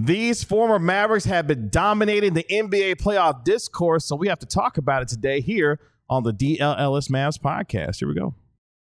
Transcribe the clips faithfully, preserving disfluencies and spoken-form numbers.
These former Mavericks have been dominating the N B A playoff discourse, so we have to talk about it today here on the D L L S Mavs podcast. Here we go.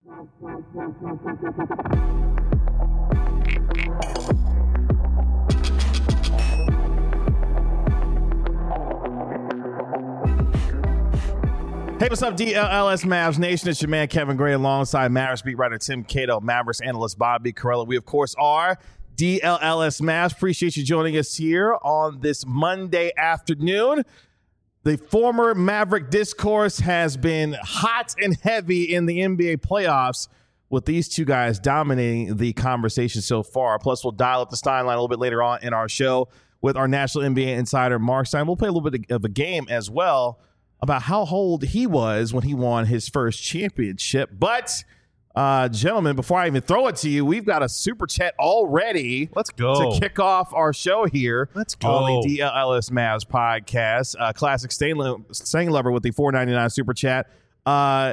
Hey, what's up, D L L S Mavs Nation? It's your man, Kevin Gray, alongside Mavericks beat writer Tim Cato, Mavericks analyst Bobby Karalla. We, of course, are D L L S Mavs. Appreciate you joining us here on this Monday afternoon. The former Maverick discourse has been hot and heavy in the N B A playoffs, with these two guys dominating the conversation so far. Plus, we'll dial up the Stein line a little bit later on in our show with our national N B A insider, Mark Stein. We'll play a little bit of a game as well about how old he was when he won his first championship. But, uh, gentlemen, before I even throw it to you, we've got a super chat already. Let's go. To kick off our show here. Let's go. On the D L L S Mavs podcast. Uh, Classic Stain Lover with the four ninety-nine super chat. Uh,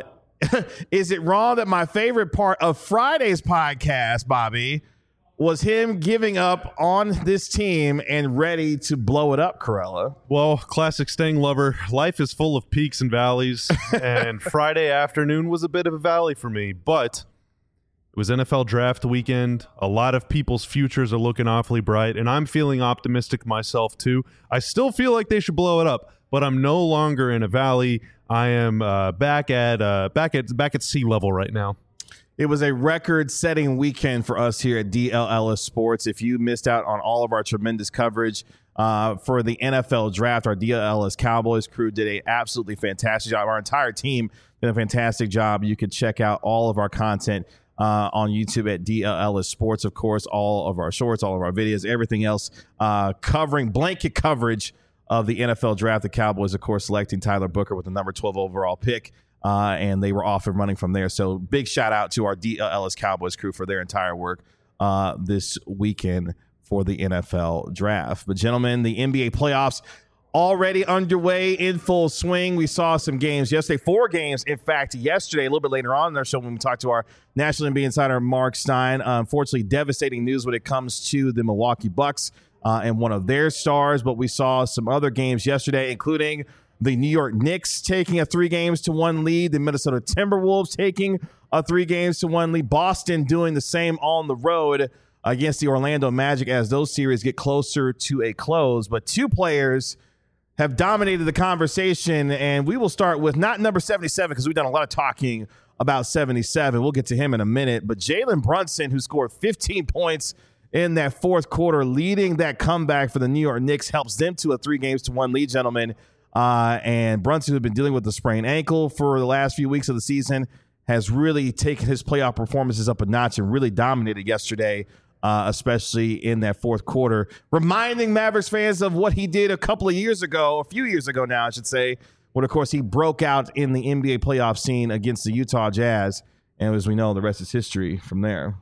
is it wrong that my favorite part of Friday's podcast, Bobby, was him giving up on this team and ready to blow it up, Karalla? Well, Classic Sting Lover, life is full of peaks and valleys, and Friday afternoon was a bit of a valley for me, but it was N F L draft weekend. A lot of people's futures are looking awfully bright, and I'm feeling optimistic myself too. I still feel like they should blow it up, but I'm no longer in a valley. I am uh, back at uh, back at back at sea level right now. It was a record-setting weekend for us here at D L L S Sports. If you missed out on all of our tremendous coverage uh, for the N F L draft, our D L L S Cowboys crew did a absolutely fantastic job. Our entire team did a fantastic job. You could check out all of our content uh, on YouTube at D L L S Sports. Of course, all of our shorts, all of our videos, everything else uh, covering blanket coverage of the N F L draft. The Cowboys, of course, selecting Tyler Booker with the number twelve overall pick. Uh, and they were off and running from there. So big shout out to our D L L S Cowboys crew for their entire work uh, this weekend for the N F L draft. But gentlemen, the N B A playoffs already underway in full swing. We saw some games yesterday, four games, in fact, yesterday, a little bit later on in our show when we talked to our national N B A insider, Mark Stein. Uh, unfortunately, devastating news when it comes to the Milwaukee Bucks uh, and one of their stars. But we saw some other games yesterday, including the New York Knicks taking a three games to one lead. The Minnesota Timberwolves taking a three games to one lead. Boston doing the same on the road against the Orlando Magic as those series get closer to a close. But two players have dominated the conversation, and we will start with not number seventy-seven because we've done a lot of talking about seventy-seven. We'll get to him in a minute. But Jalen Brunson, who scored fifteen points in that fourth quarter, leading that comeback for the New York Knicks, helps them to a three games to one lead, gentlemen. Uh, and Brunson, who's been dealing with the sprained ankle for the last few weeks of the season, has really taken his playoff performances up a notch and really dominated yesterday, uh, especially in that fourth quarter, reminding Mavericks fans of what he did a couple of years ago, a few years ago now, I should say, when, of course, he broke out in the N B A playoff scene against the Utah Jazz. And as we know, the rest is history from there.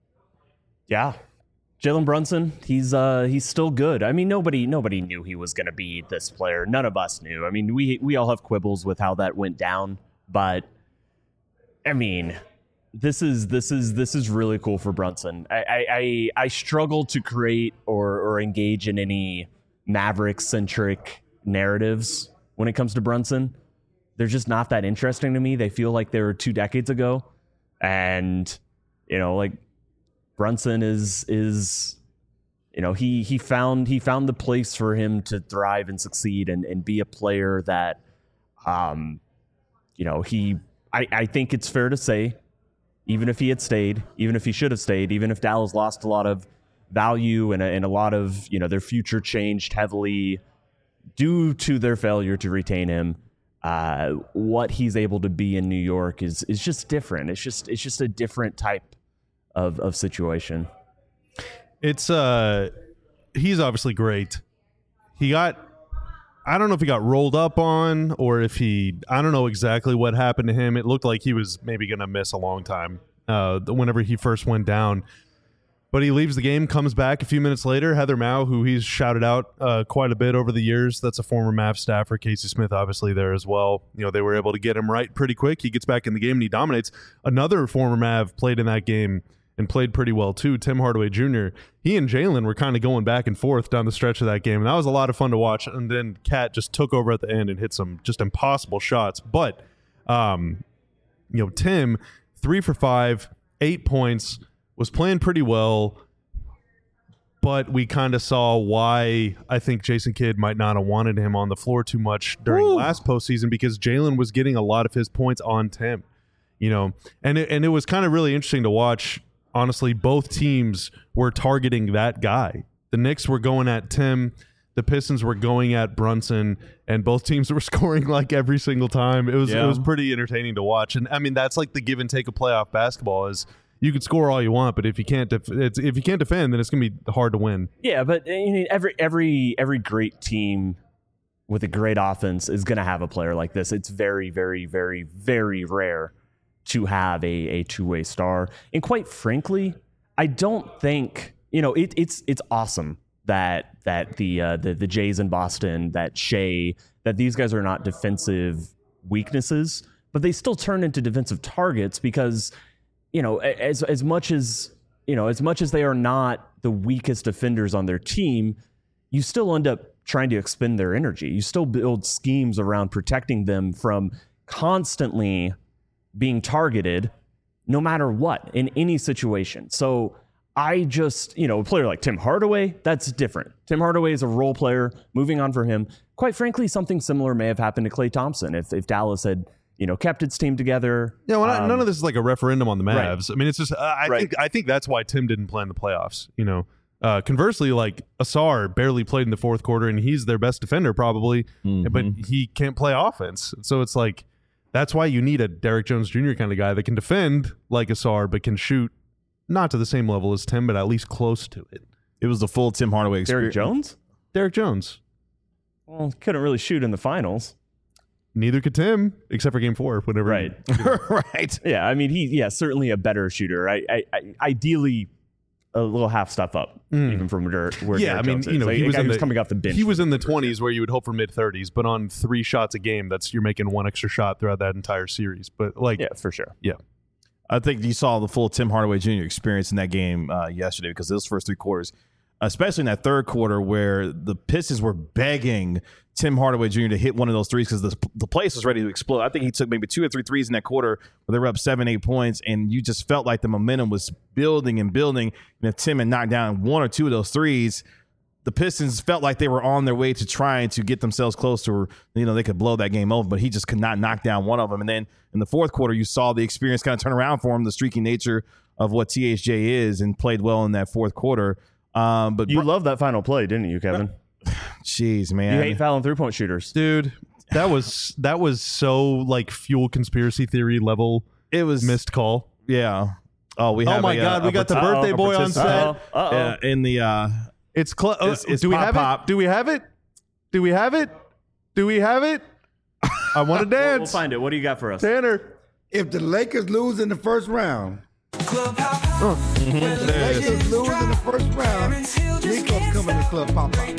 Yeah. Jalen Brunson, he's uh, he's still good. I mean, nobody nobody knew he was going to be this player. None of us knew. I mean, we we all have quibbles with how that went down, but I mean, this is this is this is really cool for Brunson. I I, I, I struggle to create or or engage in any Maverick centric narratives when it comes to Brunson. They're just not that interesting to me. They feel like they were two decades ago, and you know, like. Brunson is is you know he he found he found the place for him to thrive and succeed and, and be a player that um you know he I, I think it's fair to say, even if he had stayed, even if he should have stayed, even if Dallas lost a lot of value and a, and a lot of you know their future changed heavily due to their failure to retain him, uh what he's able to be in New York is is just different. It's just it's just a different type Of, of situation. It's uh he's obviously great. He got I don't know if he got rolled up on or if he I don't know exactly what happened to him. It looked like he was maybe gonna miss a long time uh whenever he first went down. But he leaves the game, comes back a few minutes later. Heather Mao, who he's shouted out uh, quite a bit over the years, that's a former Mav staffer. Casey Smith, obviously, there as well. You know, they were able to get him right pretty quick. He gets back in the game and he dominates. Another former Mav played in that game and played pretty well too. Tim Hardaway Junior He and Jalen were kind of going back and forth down the stretch of that game, and that was a lot of fun to watch. And then Cat just took over at the end and hit some just impossible shots. But, um, you know, Tim, three for five, eight points, was playing pretty well. But we kind of saw why I think Jason Kidd might not have wanted him on the floor too much during Woo. last postseason, because Jalen was getting a lot of his points on Tim. You know, and it, and it was kind of really interesting to watch. Honestly, both teams were targeting that guy. The Knicks were going at Tim. The Pistons were going at Brunson, and both teams were scoring like every single time. It was Yeah. it was pretty entertaining to watch. And I mean, that's like the give and take of playoff basketball. Is you can score all you want, but if you can't def- it's, if you can't defend, then it's gonna be hard to win. Yeah, but you know, every every every great team with a great offense is going to have a player like this. It's very, very, very, very rare to have a, a two-way star. And quite frankly, I don't think, you know, it, it's it's awesome that that the, uh, the the Jays in Boston, that Shea, that these guys are not defensive weaknesses, but they still turn into defensive targets because, you know, as as much as, you know, as much as they are not the weakest defenders on their team, you still end up trying to expend their energy. You still build schemes around protecting them from constantly being targeted no matter what in any situation. So I just, you know, a player like Tim Hardaway, that's different. Tim Hardaway is a role player. Moving on for him. Quite frankly, something similar may have happened to Klay Thompson if, if Dallas had, you know, kept its team together. Yeah, well, Um, none of this is like a referendum on the right. Mavs. I mean, it's just uh, I Right. think I think that's why Tim didn't play in the playoffs. You know, uh, conversely, like Asar barely played in the fourth quarter, and he's their best defender probably, Mhm. but he can't play offense. So it's like that's why you need a Derrick Jones Junior kind of guy that can defend like Asar, but can shoot not to the same level as Tim, but at least close to it. It was the full Tim Hardaway Derrick experience. Jones? Derrick Jones. Well, couldn't really shoot in the finals. Neither could Tim, except for Game Four. Whenever, Right. Right. Yeah, I mean, he, yeah, certainly a better shooter. I, I, I ideally, a little half step up, Mm. even from where, where Yeah, Derrick I mean, Jones you is. know, Like, he a was guy in who's the- coming off the bench. he was in the twenties where you would hope for mid thirties, but on three shots a game, that's you're making one extra shot throughout that entire series. But like, Yeah, for sure. I think you saw the full Tim Hardaway Junior experience in that game uh, yesterday because those first three quarters, especially in that third quarter where the Pistons were begging Tim Hardaway Junior to hit one of those threes because the, the place was ready to explode. I think he took maybe two or three threes in that quarter where they were up seven, eight points, and you just felt like the momentum was building and building. And if Tim had knocked down one or two of those threes, the Pistons felt like they were on their way to trying to get themselves close to where, you know, they could blow that game over, but he just could not knock down one of them. And then in the fourth quarter, you saw the experience kind of turn around for him, the streaky nature of what T H J is, and played well in that fourth quarter. Um, but You Br- loved that final play, didn't you, Kevin? jeez, You man. hate fouling three-point shooters. dude, that was that was so like fuel conspiracy theory level It was missed call. Yeah. Oh, we Oh have my a, God, uh, we a got the partic- birthday Uh-oh, boy on participant. set. Uh-oh. Uh-oh. uh, in the uh, It's cl- It's- it's do we pop, have pop. it? Do we have it? Do we have it? Do we have it? I want to We'll, we'll dance. find it. What do you got for us? Tanner. If the Lakers lose in the first round, Mm-hmm. if the Lakers lose in the first round, Nico's coming to Club Pop Pop.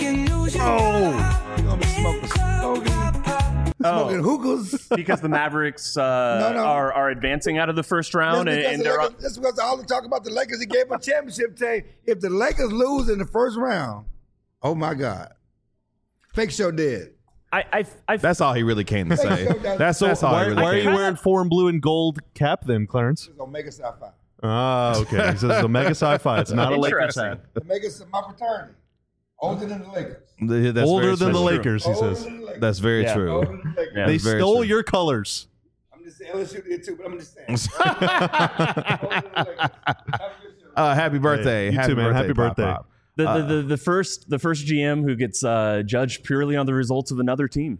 Oh, He's gonna be smoking, smoking, smoking hookahs. Because the Mavericks uh, No, no. are are advancing out of the first round, and, That's and because, they're the Lakers, that's because all the talk about the Lakers, he gave a championship team. If the Lakers lose in the first round, oh my God. Fake show dead. I, I, I, that's all he really came to say. That's so that's all why, he really why are came you to wearing four and blue and gold cap then, Clarence? It's Omega Psi Phi. Ah, okay. He says it's Omega Sci-Fi. It's not a Lakers Interesting. hat. Omega is my fraternity. Older than the Lakers. Th- that's Older very than the true. Lakers, he Older says. than the Lakers. That's very Yeah. true. Older than the Lakers. Yeah. They That's very stole true. your colors. I'm just saying, L S U did too, but I'm just saying. Older than the Lakers. Have a good show. Uh, happy birthday. you happy too, man. birthday. Happy Pop birthday. Pop. the, the, Uh, the, the first the first G M who gets uh, judged purely on the results of another team.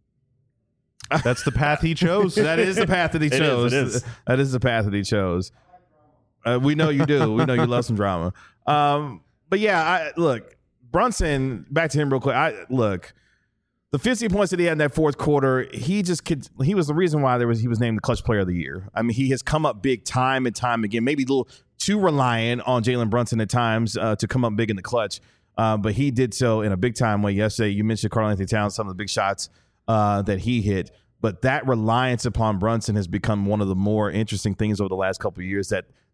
That's the path he chose. that is the path that he It is, chose. it is. That is the path that he chose. Uh, we know you do. We know you love some drama. Um, but yeah, I, look, Brunson. Back to him real quick. I look. The fifty points that he had in that fourth quarter, he just could. He was the reason why there was he was named the clutch player of the year. I mean, he has come up big time and time again. Maybe a little too reliant on Jalen Brunson at times uh, to come up big in the clutch, uh, but he did so in a big time way yesterday. You mentioned Karl Anthony Towns, some of the big shots uh, that he hit, but that reliance upon Brunson has become one of the more interesting things over the last couple of years. That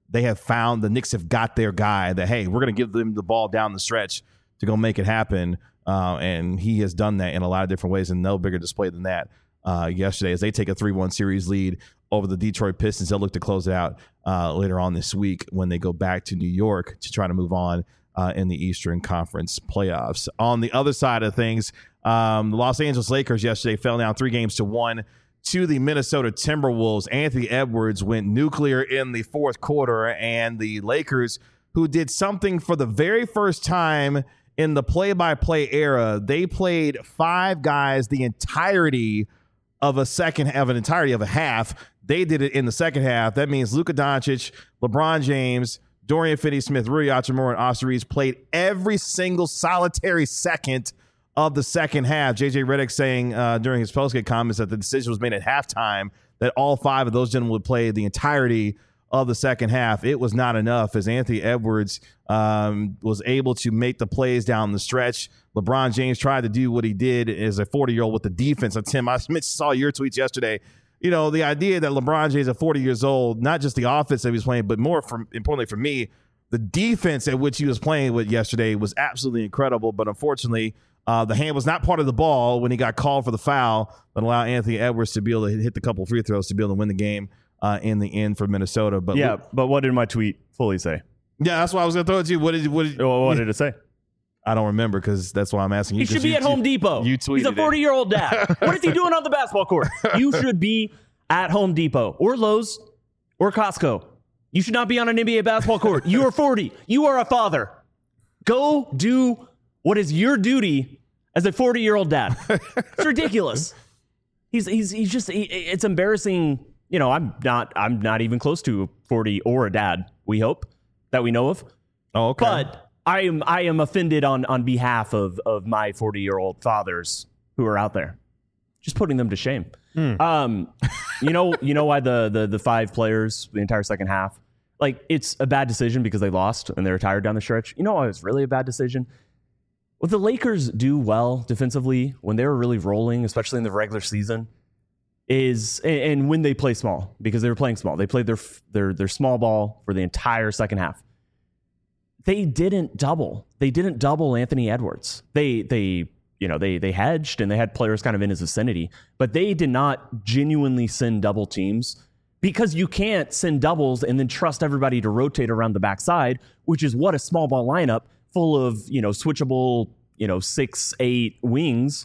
they have found, the Knicks have got their guy that, hey, we're going to give them the ball down the stretch to go make it happen. Uh, and he has done that in a lot of different ways, and no bigger display than that uh, yesterday as they take a three one series lead over the Detroit Pistons. They'll look to close it out uh, later on this week when they go back to New York to try to move on uh, in the Eastern Conference playoffs. On the other side of things, um, the Los Angeles Lakers yesterday fell down three games to one to the Minnesota Timberwolves. Anthony Edwards went nuclear in the fourth quarter, and the Lakers, who did something for the very first time in the play-by-play era, they played five guys the entirety of a second of an entirety of a half. They did it in the second half. That means Luka Doncic, LeBron James, Dorian Finney-Smith, Rui Hachimura, and Austin Reeves played every single solitary second of the second half. J J Redick saying uh, during his postgame comments that the decision was made at halftime that all five of those gentlemen would play the entirety of the second half. It was not enough as Anthony Edwards um, was able to make the plays down the stretch. LeBron James tried to do what he did as a forty-year-old with the defense. And Tim, I saw your tweets yesterday. You know, the idea that LeBron James at forty years old, not just the offense that he was playing, but more from, importantly for me, the defense at which he was playing with yesterday was absolutely incredible. But unfortunately, uh, the hand was not part of the ball when he got called for the foul that allowed Anthony Edwards to be able to hit the couple free throws to be able to win the game uh, in the end for Minnesota. But yeah, Luke, but what did my tweet fully say? Yeah, that's why I was going to throw it to you. What did, what did, Well, what did it say? I don't remember because that's why I'm asking you. He should be you, at Home Depot. You tweeted He's a forty-year-old dad. What is he doing on the basketball court? You should be at Home Depot or Lowe's or Costco. You should not be on an N B A basketball court. You are forty. You are a father. Go do what is your duty as a forty-year-old dad. It's ridiculous. He's he's he's just he, it's embarrassing. You know, I'm not I'm not even close to forty or a dad. We hope that we know of. Oh, okay. But I am I am offended on on behalf of of my forty-year-old fathers who are out there, just putting them to shame. Mm. Um, you know, you know why the the the five players the entire second half, like it's a bad decision because they lost and they retired down the stretch. You know why it was really a bad decision? What the Lakers do well defensively when they were really rolling, especially in the regular season, is and, and when they play small because they were playing small, they played their their their small ball for the entire second half. They didn't double. They didn't double Anthony Edwards. They they. You know, they they hedged and they had players kind of in his vicinity, but they did not genuinely send double teams because you can't send doubles and then trust everybody to rotate around the backside, which is what a small ball lineup full of, you know, switchable, you know, six, eight wings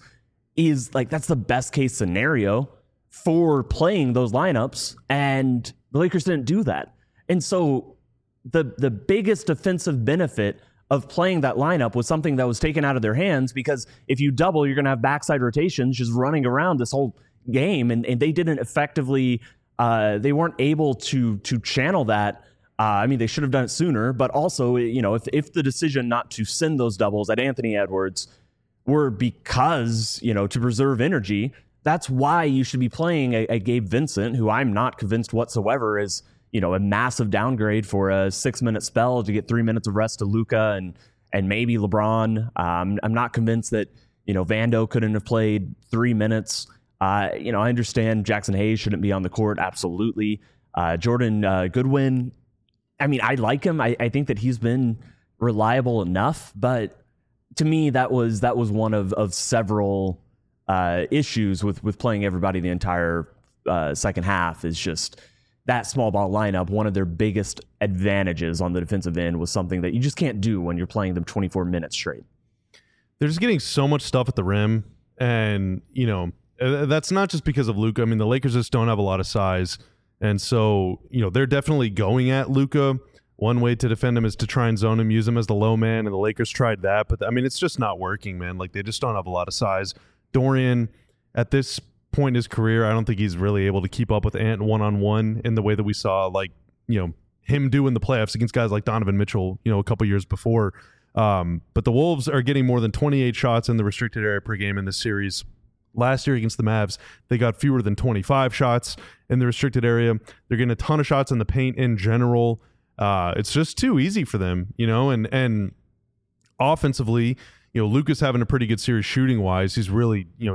is like. That's the best case scenario for playing those lineups. And the Lakers didn't do that. And so the the biggest defensive benefit of playing that lineup was something that was taken out of their hands because if you double, you're going to have backside rotations just running around this whole game. And, and they didn't effectively, uh, they weren't able to to channel that. Uh, I mean, they should have done it sooner, but also, you know, if, if the decision not to send those doubles at Anthony Edwards were because, you know, to preserve energy, that's why you should be playing a, a Gabe Vincent, who I'm not convinced whatsoever is, you know, a massive downgrade for a six-minute spell to get three minutes of rest to Luka and and maybe LeBron. Um, I'm not convinced that, you know, Vando couldn't have played three minutes. Uh, you know, I understand Jackson Hayes shouldn't be on the court. Absolutely. Uh, Jordan uh, Goodwin, I mean, I like him. I, I think that he's been reliable enough. But to me, that was that was one of, of several uh, issues with, with playing everybody the entire uh, second half is just that small ball lineup. One of their biggest advantages on the defensive end was something that you just can't do when you're playing them twenty-four minutes straight. They're just getting so much stuff at the rim. And, you know, that's not just because of Luka. I mean, the Lakers just don't have a lot of size. And so, you know, they're definitely going at Luka. One way to defend him is to try and zone him, use him as the low man. And the Lakers tried that. But, I mean, it's just not working, man. Like, they just don't have a lot of size. Dorian, at this point in his career, I don't think he's really able to keep up with Ant one-on-one in the way that we saw, like, you know, him do in the playoffs against guys like Donovan Mitchell, you know, a couple years before. Um, but the Wolves are getting more than twenty-eight shots in the restricted area per game in this series. Last year against the Mavs, they got fewer than twenty-five shots in the restricted area. They're getting a ton of shots in the paint in general. Uh, it's just too easy for them, you know, and, and offensively, you know, Luka's having a pretty good series shooting wise. He's really, you know, he's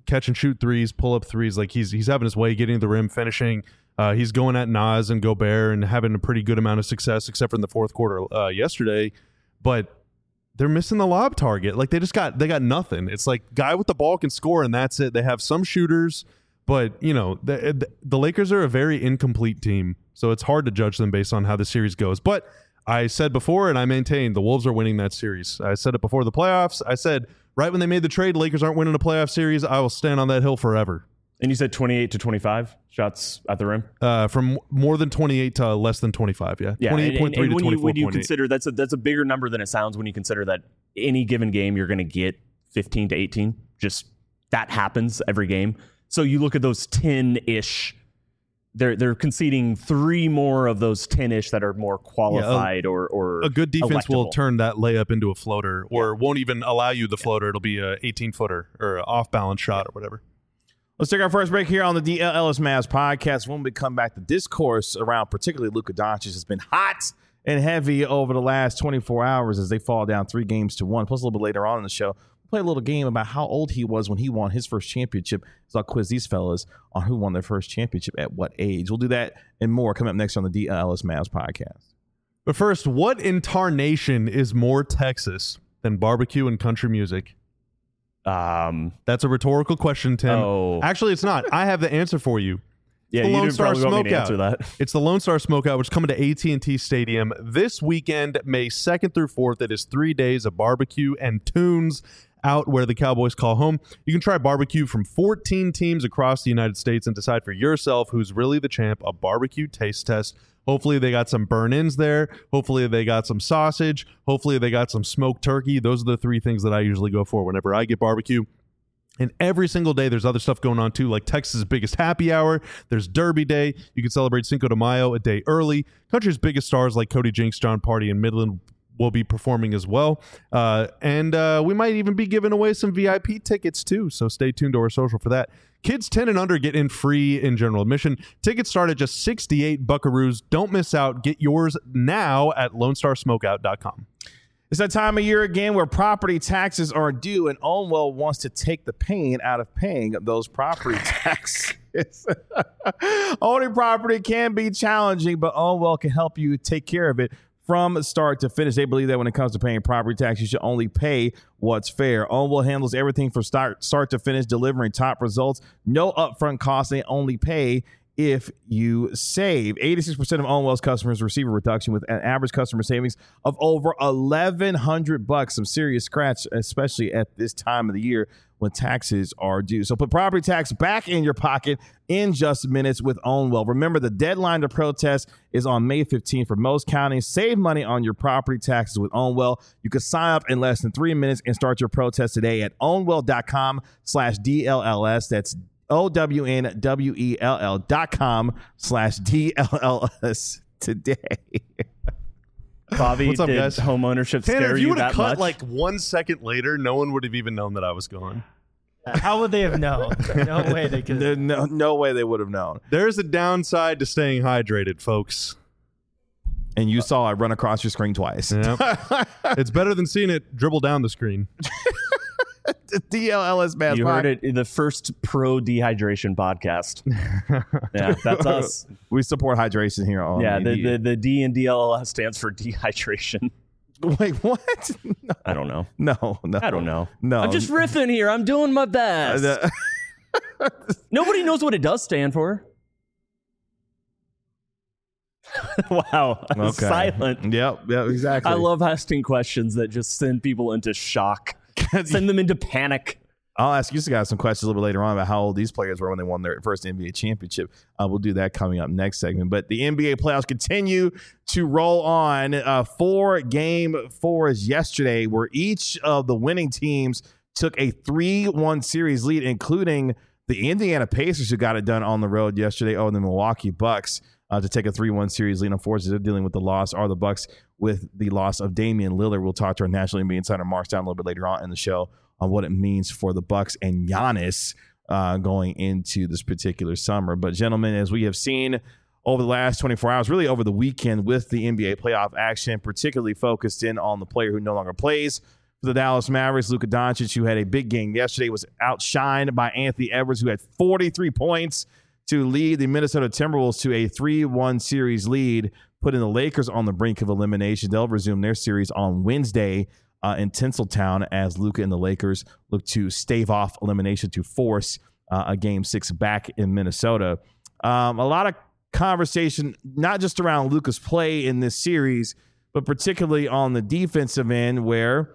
catch and shoot threes, pull up threes. Like he's he's having his way, getting to the rim, finishing. Uh, he's going at Nas and Gobert and having a pretty good amount of success, except for in the fourth quarter uh, yesterday. But they're missing the lob target. Like they just got they got nothing. It's like guy with the ball can score and that's it. They have some shooters, but you know the the Lakers are a very incomplete team, so it's hard to judge them based on how the series goes. But I said before, and I maintain, the Wolves are winning that series. I said it before the playoffs. I said right when they made the trade, Lakers aren't winning a playoff series. I will stand on that hill forever. And you said twenty-eight to twenty-five shots at the rim? Uh, from more than twenty-eight to less than twenty-five, yeah. Yeah, twenty-eight point three and, and, and to when you, twenty-four point eight. when you consider that's a, that's a bigger number than it sounds when you consider that any given game you're going to get fifteen to eighteen. Just that happens every game. So you look at those ten-ish, they're they're conceding three more of those ten-ish that are more qualified yeah, a, or, or a good defense electable. will turn that layup into a floater or yeah. won't even allow you the floater. It'll be a eighteen-footer or an off-balance shot or whatever. Let's take our first break here on the D L Ellis Mavs podcast. When we come back, the discourse around particularly Luka Doncic has been hot and heavy over the last twenty-four hours as they fall down three games to one. Plus, a little bit later on in the show, we'll play a little game about how old he was when he won his first championship. So I'll quiz these fellas on who won their first championship at what age. We'll do that and more coming up next on the D L Ellis Mavs podcast. But first, what incarnation is more Texas than barbecue and country music? Um, That's a rhetorical question, Tim. Oh. Actually, it's not. I have the answer for you. Yeah, the you Lone didn't Star probably want me to Smokeout. answer that. It's the Lone Star Smokeout, which is coming to A T and T Stadium this weekend, May second through fourth. It is three days of barbecue and tunes out where the Cowboys call home. You can try barbecue from fourteen teams across the United States and decide for yourself who's really the champ. A barbecue taste test. Hopefully they got some burn-ins there. Hopefully they got some sausage. Hopefully they got some smoked turkey. Those are the three things that I usually go for whenever I get barbecue. And every single day, there's other stuff going on, too, like Texas' biggest happy hour. There's Derby Day. You can celebrate Cinco de Mayo a day early. Country's biggest stars like Cody Jinks, John Party, and Midland will be performing as well. Uh, and uh, we might even be giving away some V I P tickets, too. So stay tuned to our social for that. Kids ten and under get in free in general admission. Tickets start at just sixty-eight buckaroos. Don't miss out. Get yours now at lone star smokeout dot com. It's that time of year again where property taxes are due, and Ownwell wants to take the pain out of paying those property taxes. Owning property can be challenging, but Ownwell can help you take care of it from start to finish. They believe that when it comes to paying property tax, you should only pay what's fair. Ownwell handles everything from start, start to finish, delivering top results. No upfront costs. They only pay if you save. eighty-six percent of Ownwell's customers receive a reduction with an average customer savings of over eleven hundred bucks. Some serious scratch, especially at this time of the year when taxes are due. So put property tax back in your pocket in just minutes with Ownwell. Remember, the deadline to protest is on May fifteenth for most counties. Save money on your property taxes with Ownwell. You can sign up in less than three minutes and start your protest today at ownwell.com slash DLLS. That's O W N W E L L dot com slash D L L S today. Bobby, what's up, did guys? home ownership Tanner, scare if you you would have that cut much? like one second later, no one would have even known that I was gone. How would they have known? No way they could. There- No, no way they would have known. There's a downside to staying hydrated, folks. And you saw it run across your screen twice. Yep. It's better than seeing it dribble down the screen. The D L L S Mavs You podcast. heard it in the first pro dehydration podcast. Yeah, that's us. We support hydration here on Yeah, the, the, the, the D in D L L S stands for dehydration. Wait, what? No, I don't know. no, no. I don't know. No. I'm just riffing here. I'm doing my best. Uh, Nobody knows what it does stand for. Wow. Okay. Silent. Yep, yep, exactly. I love asking questions that just send people into shock, send them into panic. I'll ask you guys some questions a little bit later on about how old these players were when they won their first N B A championship. Uh, we'll do that coming up next segment. But the N B A playoffs continue to roll on. Uh, four game fours yesterday, where each of the winning teams took a three one series lead, including the Indiana Pacers, who got it done on the road yesterday over the Milwaukee Bucks uh, to take a three one series lead. Unfortunately, they're dealing with the loss, are the Bucks, with the loss of Damian Lillard. We'll talk to our national N B A insider Mark Stein a little bit later on in the show on what it means for the Bucks and Giannis uh, going into this particular summer. But gentlemen, as we have seen over the last twenty-four hours, really over the weekend with the N B A playoff action, particularly focused in on the player who no longer plays for for the Dallas Mavericks. Luka Doncic, who had a big game yesterday, was outshined by Anthony Edwards, who had forty-three points to lead the Minnesota Timberwolves to a three one series lead, putting the Lakers on the brink of elimination. They'll resume their series on Wednesday uh, in Tinseltown as Luka and the Lakers look to stave off elimination to force uh, a game six back in Minnesota. Um, a lot of conversation, not just around Luka's play in this series, but particularly on the defensive end, where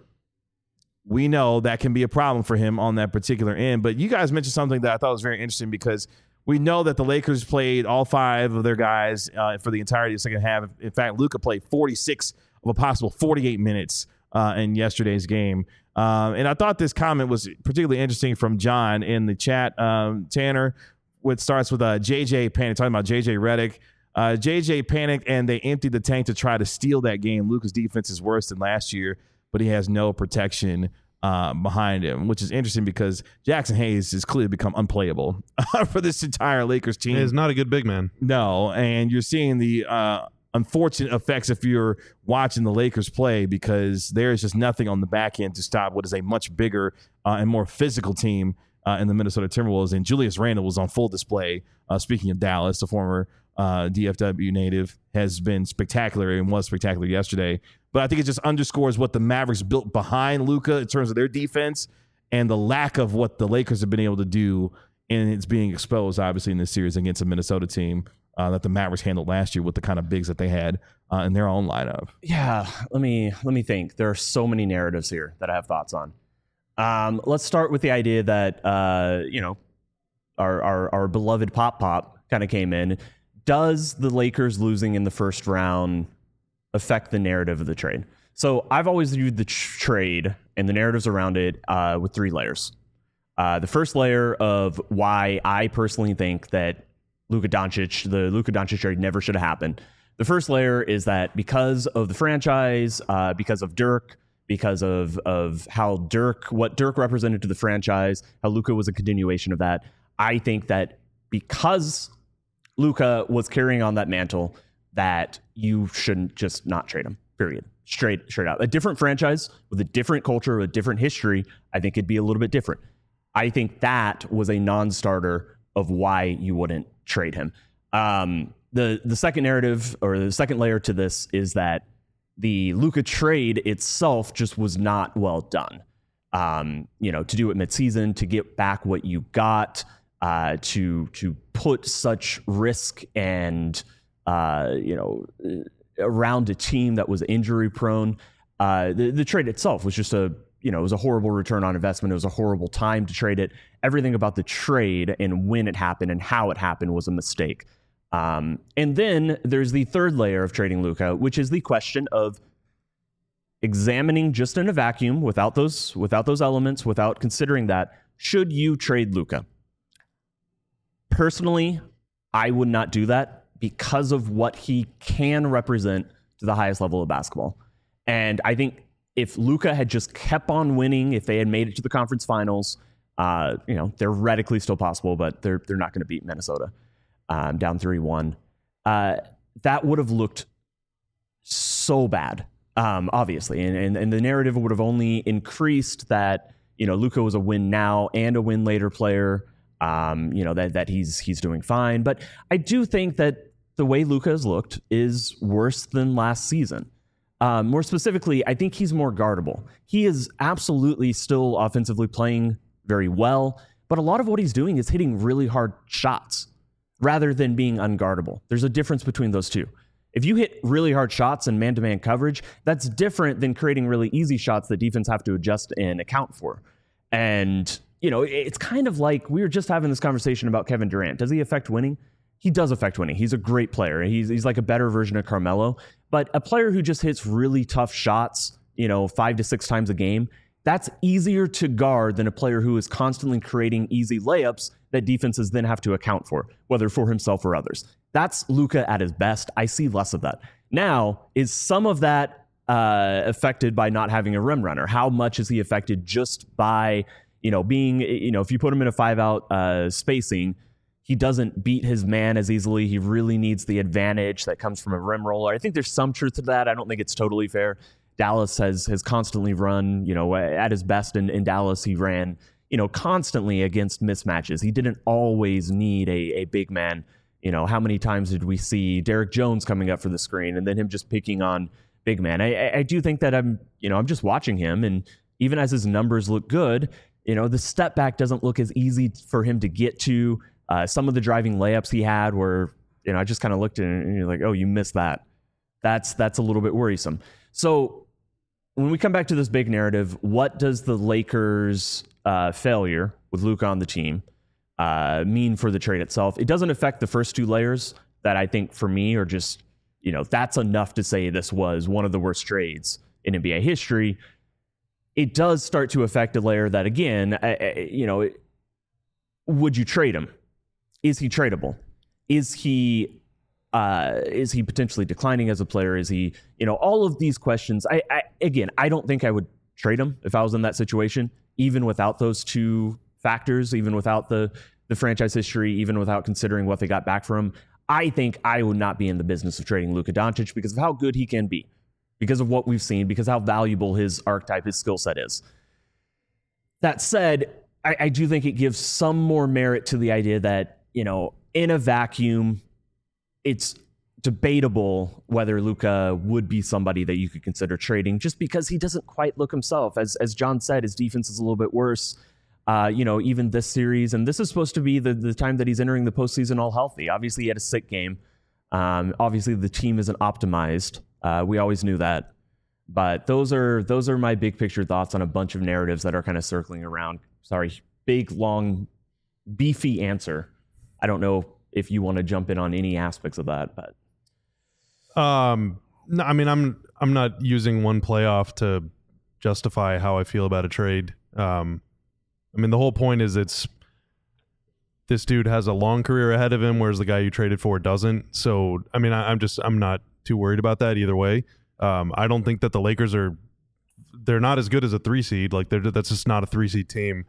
we know that can be a problem for him on that particular end. But you guys mentioned something that I thought was very interesting, because we know that the Lakers played all five of their guys uh, for the entirety of the second half. In fact, Luka played forty-six of a possible forty-eight minutes uh, in yesterday's game. Um, and I thought this comment was particularly interesting from John in the chat. Um, Tanner, which starts with uh, J J Panic, talking about J J Redick. Uh, J J panicked and they emptied the tank to try to steal that game. Luka's defense is worse than last year, but he has no protection uh, behind him, which is interesting because Jackson Hayes has clearly become unplayable for this entire Lakers team. He's not a good big man. No, and you're seeing the uh, unfortunate effects if you're watching the Lakers play, because there is just nothing on the back end to stop what is a much bigger uh, and more physical team uh, in the Minnesota Timberwolves. And Julius Randle was on full display. Uh, speaking of Dallas, the former uh, D F W native has been spectacular and was spectacular yesterday. But I think it just underscores what the Mavericks built behind Luka in terms of their defense and the lack of what the Lakers have been able to do. And it's being exposed, obviously, in this series against a Minnesota team uh, that the Mavericks handled last year with the kind of bigs that they had uh, in their own lineup. Yeah, let me let me think. There are so many narratives here that I have thoughts on. Um, let's start with the idea that uh, you know our our, our beloved Pop Pop kind of came in. Does the Lakers losing in the first round affect the narrative of the trade? So I've always viewed the tr- trade and the narratives around it uh, with three layers. Uh, the first layer of why I personally think that Luka Doncic, the Luka Doncic trade never should have happened. The first layer is that because of the franchise, uh, because of Dirk, because of of how Dirk, what Dirk represented to the franchise, how Luka was a continuation of that. I think that because Luka was carrying on that mantle, that you shouldn't just not trade him, period. Straight, straight out. A different franchise with a different culture, a different history, I think it'd be a little bit different. I think that was a non-starter of why you wouldn't trade him. Um, the the second narrative, or the second layer to this, is that the Luka trade itself just was not well done. Um, you know, to do it midseason, to get back what you got, uh, to to put such risk and uh, you know around a team that was injury prone. Uh, the, the trade itself was just a you know, it was a horrible return on investment. It was a horrible time to trade it. Everything about the trade and when it happened and how it happened was a mistake. Um, and then there's the third layer of trading Luka, which is the question of examining just in a vacuum without those, without those elements, without considering that, should you trade Luka? Personally, I would not do that because of what he can represent to the highest level of basketball. And I think if Luka had just kept on winning, if they had made it to the conference finals, uh, you know, theoretically still possible, but they're they're not going to beat Minnesota um, down three one. Uh, that would have looked so bad, um, obviously, and, and and the narrative would have only increased that you know Luka was a win now and a win later player. Um, you know that that he's he's doing fine, but I do think that the way Luka has looked is worse than last season. Um, more specifically, I think he's more guardable. He is absolutely still offensively playing very well, but a lot of what he's doing is hitting really hard shots rather than being unguardable. There's a difference between those two. If you hit really hard shots in man-to-man coverage, that's different than creating really easy shots that defense have to adjust and account for. And, you know, it's kind of like we were just having this conversation about Kevin Durant. Does he affect winning? He does affect winning. He's a great player. He's he's like a better version of Carmelo. But a player who just hits really tough shots, you know, five to six times a game, that's easier to guard than a player who is constantly creating easy layups that defenses then have to account for, whether for himself or others. That's Luka at his best. I see less of that. Now, is some of that uh, affected by not having a rim runner? How much is he affected just by, you know, being, you know, if you put him in a five-out uh, spacing, he doesn't beat his man as easily. He really needs the advantage that comes from a rim roller. I think there's some truth to that. I don't think it's totally fair Dallas has has constantly run, you know, at his best in, in Dallas, he ran, you know, constantly against mismatches. He didn't always need a, a big man. You know, how many times did we see Derek Jones coming up for the screen and then him just picking on big man? I, I do think that I'm, you know, I'm just watching him, and even as his numbers look good, you know, the step back doesn't look as easy for him to get to. Uh, some of the driving layups he had were, you know, I just kind of looked at it and you're like, oh, you missed that. That's that's a little bit worrisome. So when we come back to this big narrative, what does the Lakers' uh, failure with Luka on the team uh, mean for the trade itself? It doesn't affect the first two layers that I think for me are just, you know, that's enough to say this was one of the worst trades in N B A history. It does start to affect a layer that, again, I, I, you know, it, would you trade him? Is he tradable? Is he uh, is he potentially declining as a player? Is he, you know, all of these questions? I, I again, I don't think I would trade him if I was in that situation, even without those two factors, even without the the franchise history, even without considering what they got back from him. I think I would not be in the business of trading Luka Doncic because of how good he can be, because of what we've seen, because how valuable his archetype, his skill set is. That said, I, I do think it gives some more merit to the idea that, you know, in a vacuum, it's debatable whether Luka would be somebody that you could consider trading, just because he doesn't quite look himself. As as John said, his defense is a little bit worse. Uh, you know, even this series, and this is supposed to be the, the time that he's entering the postseason all healthy. Obviously, he had a sick game. Um, obviously, the team isn't optimized. Uh, we always knew that. But those are those are my big picture thoughts on a bunch of narratives that are kind of circling around. Sorry, big, long, beefy answer. I don't know if you want to jump in on any aspects of that, but um, no, I mean, I'm I'm not using one playoff to justify how I feel about a trade. Um, I mean, the whole point is it's this dude has a long career ahead of him, whereas the guy you traded for doesn't. So, I mean, I, I'm just I'm not too worried about that either way. Um, I don't think that the Lakers are they're not as good as a three seed. Like they're that's just not a three seed team.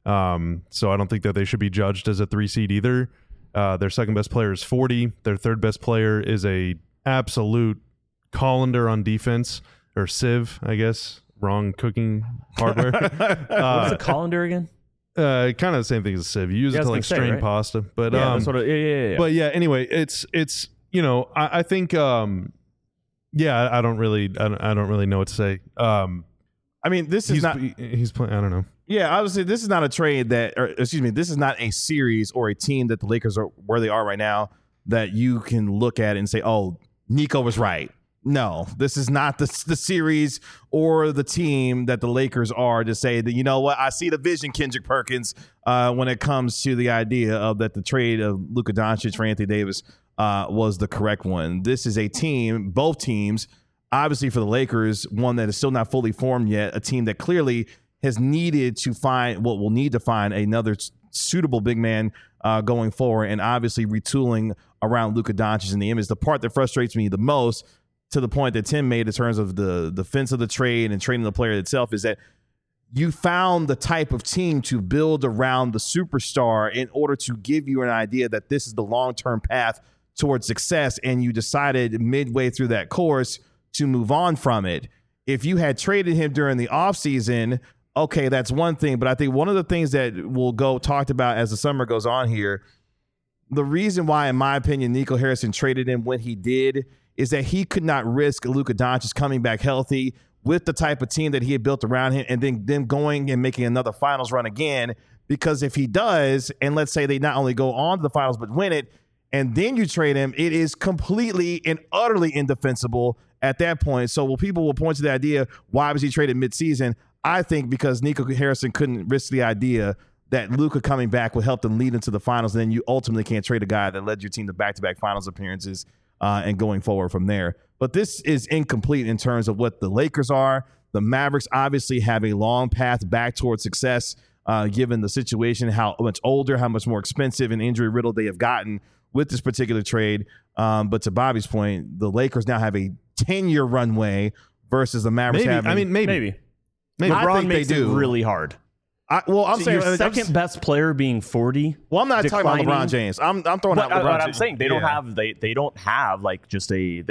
Um, so I don't think that they should be judged as a three seed either. Uh, their second best player is forty. Their third best player is a absolute colander on defense, or sieve, I guess. Wrong cooking hardware. uh, what's a colander again? Uh, kind of the same thing as a sieve. You use yeah, it to like say, strain right? pasta, but yeah, um, that's what it, yeah, yeah, yeah. But yeah, anyway, it's it's you know I, I think um, yeah, I, I don't really I don't, I don't really know what to say. Um, I mean, this is he's, not. he- he's playing. I don't know. Yeah, obviously, this is not a trade that, or excuse me, this is not a series or a team that the Lakers are where they are right now that you can look at and say, "Oh, Nico was right." No, this is not the the series or the team that the Lakers are to say that, you know what, I see the vision, Kendrick Perkins, uh, when it comes to the idea of that the trade of Luka Doncic for Anthony Davis uh, was the correct one. This is a team, both teams, obviously for the Lakers, one that is still not fully formed yet, a team that clearly has needed to find what will need to find another suitable big man uh, going forward, and obviously retooling around Luka Doncic in the image. The part that frustrates me the most, to the point that Tim made in terms of the defense of the trade and trading the player itself, is that you found the type of team to build around the superstar in order to give you an idea that this is the long-term path towards success, and you decided midway through that course to move on from it. If you had traded him during the offseason, okay, that's one thing. But I think one of the things that will go talked about as the summer goes on here, the reason why, in my opinion, Nico Harrison traded him when he did is that he could not risk Luka Doncic coming back healthy with the type of team that he had built around him, and then them going and making another finals run again. Because if he does, and let's say they not only go on to the finals but win it, and then you trade him, it is completely and utterly indefensible at that point. So well, people will point to the idea, why was he traded midseason? I think because Nico Harrison couldn't risk the idea that Luka coming back would help them lead into the finals, and then you ultimately can't trade a guy that led your team to back-to-back finals appearances uh, and going forward from there. But this is incomplete in terms of what the Lakers are. The Mavericks obviously have a long path back towards success, uh, given the situation, how much older, how much more expensive and injury-riddled they have gotten with this particular trade. Um, but to Bobby's point, the Lakers now have a ten-year runway versus the Mavericks Maybe. having. I mean, maybe. maybe. Maybe. I LeBron think they makes it do. really hard. I, well, I'm So saying your I'm second just- best player being forty. Well, I'm not talking declining. about LeBron James. I'm I'm throwing What, out LeBron what I'm James. saying, they don't Yeah. have they they don't have like just a they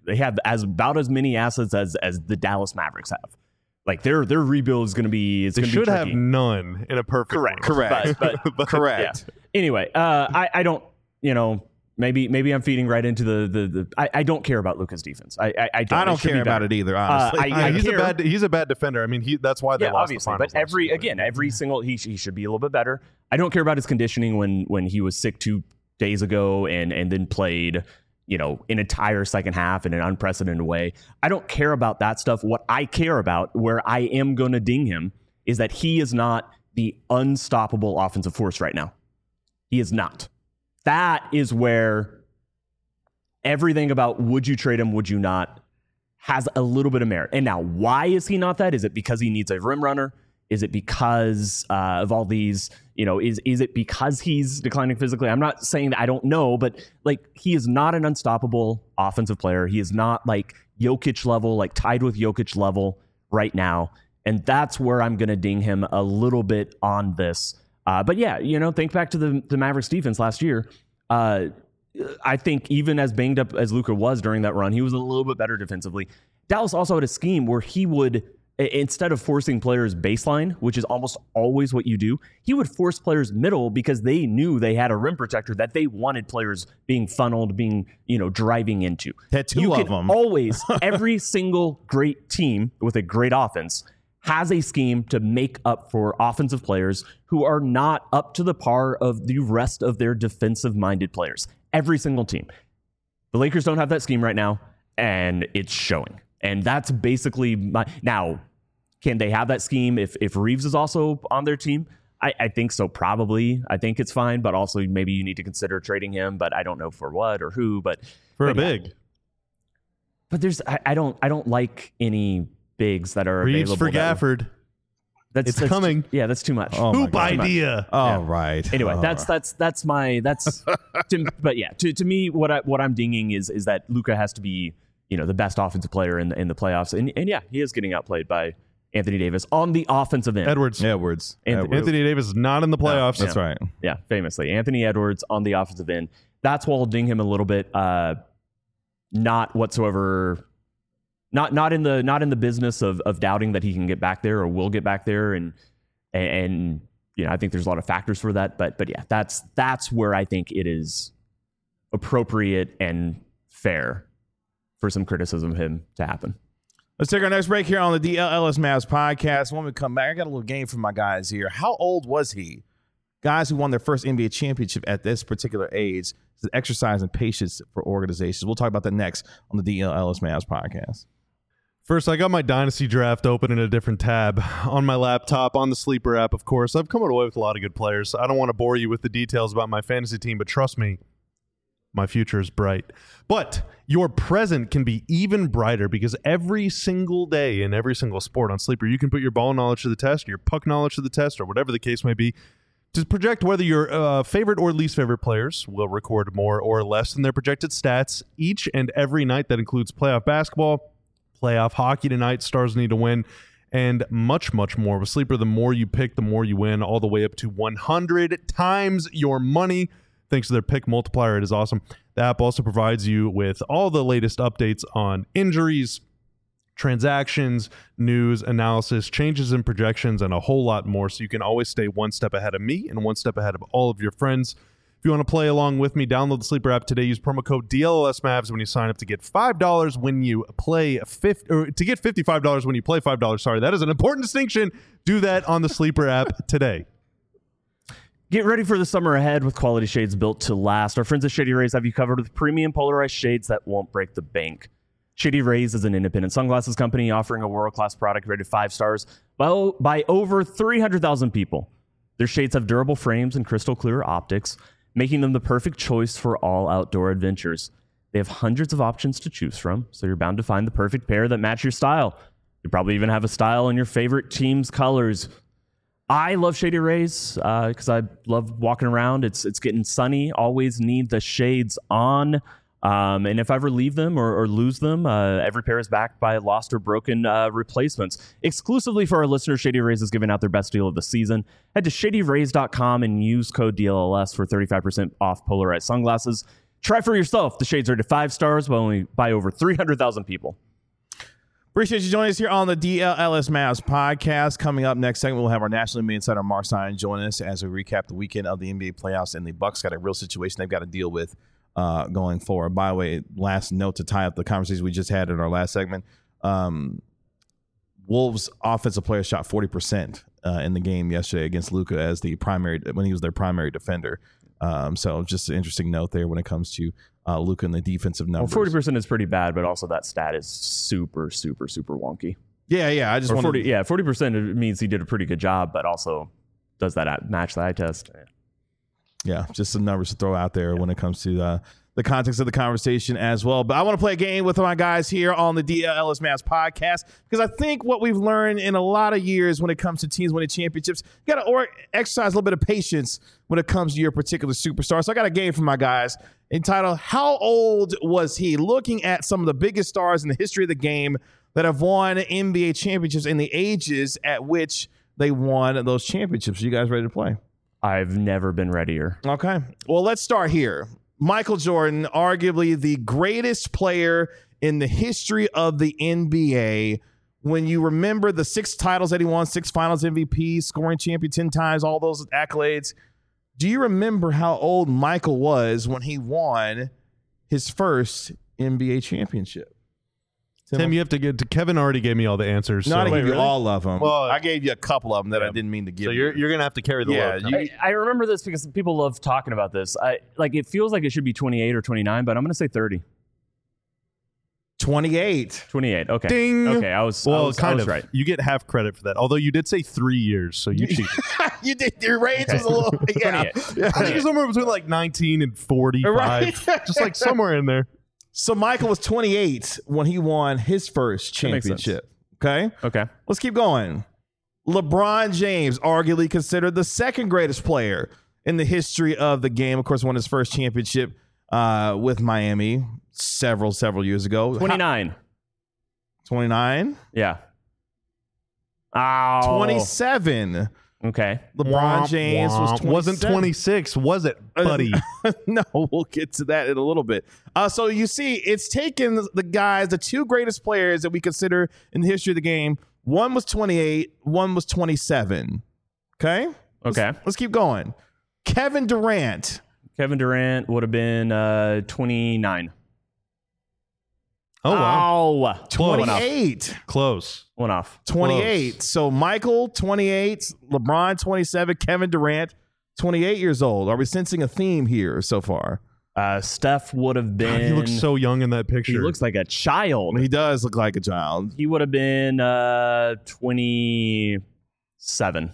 they have as about as many assets as as the Dallas Mavericks have. Like their their rebuild is going to be. It's They gonna should be have tricky. none in a perfect Correct. world. Correct. But, but Correct. yeah. Anyway, uh, I I don't you know. Maybe maybe I'm feeding right into the the. the I, I don't care about Luka's defense. I I, I don't, I don't It should care be about better. it either, Uh, honestly. I, I he's care. a bad he's a bad defender. I mean, he that's why they Yeah, lost obviously. the But finals last every year. again, every single he he should be a little bit better. I don't care about his conditioning when when he was sick two days ago and and then played, you know, an entire second half in an unprecedented way. I don't care about that stuff. What I care about, where I am going to ding him, is that he is not the unstoppable offensive force right now. He is not. That is where everything about would you trade him, would you not, has a little bit of merit. And now, why is he not that? Is it because he needs a rim runner? Is it because uh, of all these, you know, is is it because he's declining physically? I'm not saying that, I don't know, but like he is not an unstoppable offensive player. He is not like Jokic level, like tied with Jokic level right now. And that's where I'm going to ding him a little bit on this. Uh, but yeah, you know, think back to the, the Mavericks defense last year. Uh, I think even as banged up as Luka was during that run, he was a little bit better defensively. Dallas also had a scheme where he would, instead of forcing players baseline, which is almost always what you do, he would force players middle because they knew they had a rim protector that they wanted players being funneled, being, you know, driving into. Had two you of can them. Always, every single great team with a great offense has a scheme to make up for offensive players who are not up to the par of the rest of their defensive-minded players. Every single team. The Lakers don't have that scheme right now, and it's showing. And that's basically my... Now, can they have that scheme if, if Reeves is also on their team? I, I think so, probably. I think it's fine, but also maybe you need to consider trading him, but I don't know for what or who. But for but a yeah. big. But there's... I, I don't I don't like any bigs that are Reeves available. for that- Gafford. That's, It's that's coming. Too, yeah, that's too much. Oh my Hoop God. idea. All right. Anyway, All that's right. that's that's my that's to, but yeah, to, to me what I what I'm dinging is is that Luka has to be, you know, the best offensive player in the in the playoffs. And and yeah, he is getting outplayed by Anthony Davis on the offensive end. Edwards. Edwards. Anthony- Edwards. Anthony Davis is not in the playoffs. That's right. Yeah, famously. Anthony Edwards on the offensive end. That's why I'll ding him a little bit. Uh not whatsoever not not in the not in the business of of doubting that he can get back there or will get back there and and, and you know, I think there's a lot of factors for that, but but yeah, that's that's where I think it is appropriate and fair for some criticism of him to happen. Let's take our next break here on the D L Ellis Mavs podcast. When we come back, I got a little game for my guys here. How old was he? Guys who won their first N B A championship at this particular age is an exercise in patience for organizations. We'll talk about that next on the D L Ellis Mavs podcast. First, I got my Dynasty draft open in a different tab on my laptop, on the Sleeper app, of course. I've come away with a lot of good players. I don't want to bore you with the details about my fantasy team, but trust me, my future is bright. But your present can be even brighter because every single day in every single sport on Sleeper, you can put your ball knowledge to the test, your puck knowledge to the test, or whatever the case may be, to project whether your uh, favorite or least favorite players will record more or less than their projected stats each and every night. That includes playoff basketball, playoff hockey tonight, Stars need to win, and much, much more. With Sleeper, the more you pick, the more you win, all the way up to one hundred times your money. Thanks to their pick multiplier, it is awesome. The app also provides you with all the latest updates on injuries, transactions, news, analysis, changes in projections, and a whole lot more, so you can always stay one step ahead of me and one step ahead of all of your friends. If you want to play along with me, download the Sleeper app today. Use promo code D L L S Mavs when you sign up to get five dollars when you play fifty, or to get fifty-five dollars when you play five dollars. Sorry, that is an important distinction. Do that on the Sleeper app today. Get ready for the summer ahead with quality shades built to last. Our friends at Shady Rays have you covered with premium polarized shades that won't break the bank. Shady Rays is an independent sunglasses company offering a world-class product rated five stars by, by over three hundred thousand people. Their shades have durable frames and crystal clear optics, making them the perfect choice for all outdoor adventures. They have hundreds of options to choose from, so you're bound to find the perfect pair that match your style. You probably even have a style in your favorite team's colors. I love Shady Rays because uh, I love walking around. It's it's getting sunny. Always need the shades on. Um, and if I ever leave them or, or lose them, uh, every pair is backed by lost or broken uh, replacements. Exclusively for our listeners, Shady Rays is giving out their best deal of the season. Head to shady rays dot com and use code D L L S for thirty-five percent off polarized sunglasses. Try for yourself. The Shades rated five stars by only by over three hundred thousand people. Appreciate you joining us here on the D L L S Mavs podcast. Coming up next segment, we'll have our national N B A insider Mark Stein join us as we recap the weekend of the N B A playoffs, and the Bucks got a real situation they've got to deal with uh, going forward. By the way, last note to tie up the conversation we just had in our last segment. Um, Wolves offensive player shot forty percent uh, in the game yesterday against Luka as the primary when he was their primary defender. Um, so just an interesting note there when it comes to uh, Luka and the defensive numbers. Well, forty percent is pretty bad, but also that stat is super, super, super wonky. Yeah, yeah. I just want forty, yeah, forty percent means he did a pretty good job, but also does that match the eye test? Yeah, just some numbers to throw out there yeah. when it comes to uh, the context of the conversation as well. But I want to play a game with my guys here on the D L L S Mavs podcast because I think what we've learned in a lot of years when it comes to teams winning championships, you got to or exercise a little bit of patience when it comes to your particular superstar. So I got a game for my guys entitled, How Old Was He? Looking at some of the biggest stars in the history of the game that have won N B A championships and the ages at which they won those championships. Are you guys ready to play? I've never been readier. Okay. Well, let's start here. Michael Jordan, arguably the greatest player in the history of the N B A. When you remember the six titles that he won, six finals M V P, scoring champion ten times, all those accolades, do you remember how old Michael was when he won his first N B A championship? Tim, Tim you have to get to Kevin already gave me all the answers. No, so. I gave you really? all of them. Well, I gave you a couple of them that yeah. I didn't mean to give so you. you're, you're going to have to carry the yeah, load. you, I, I remember this because people love talking about this. I like it feels like it should be twenty-eight or twenty-nine, but I'm going to say thirty. twenty-eight. twenty-eight. Okay. Ding. Okay. I was, well, I was, kind I was of. right. You get half credit for that. Although you did say three years, so you cheated. You did. Your range Okay. was a little. Yeah. I think it's somewhere between like nineteen and forty-five. Right. Just like somewhere in there. So Michael was twenty-eight when he won his first championship. Okay. Okay. Let's keep going. LeBron James, arguably considered the second greatest player in the history of the game. Of course, won his first championship uh, with Miami several, several years ago. twenty-nine. twenty-nine. Yeah. Ow. twenty-seven. Okay. LeBron Womp, James womp. was twenty-seven. Wasn't twenty-six, was it, buddy? No, we'll get to that in a little bit. Uh, so you see, it's taken the guys, the two greatest players that we consider in the history of the game. One was twenty-eight, one was twenty-seven. Okay? Okay. Let's, let's keep going. Kevin Durant. Kevin Durant would have been uh, twenty-nine. Oh, wow. Ow. twenty-eight. Close. One off. twenty-eight. Close. So Michael, twenty-eight. LeBron, twenty-seven. Kevin Durant, twenty-eight years old. Are we sensing a theme here so far? Uh, Steph would have been. God, he looks so young in that picture. He looks like a child. He does look like a child. He would have been uh, twenty-seven.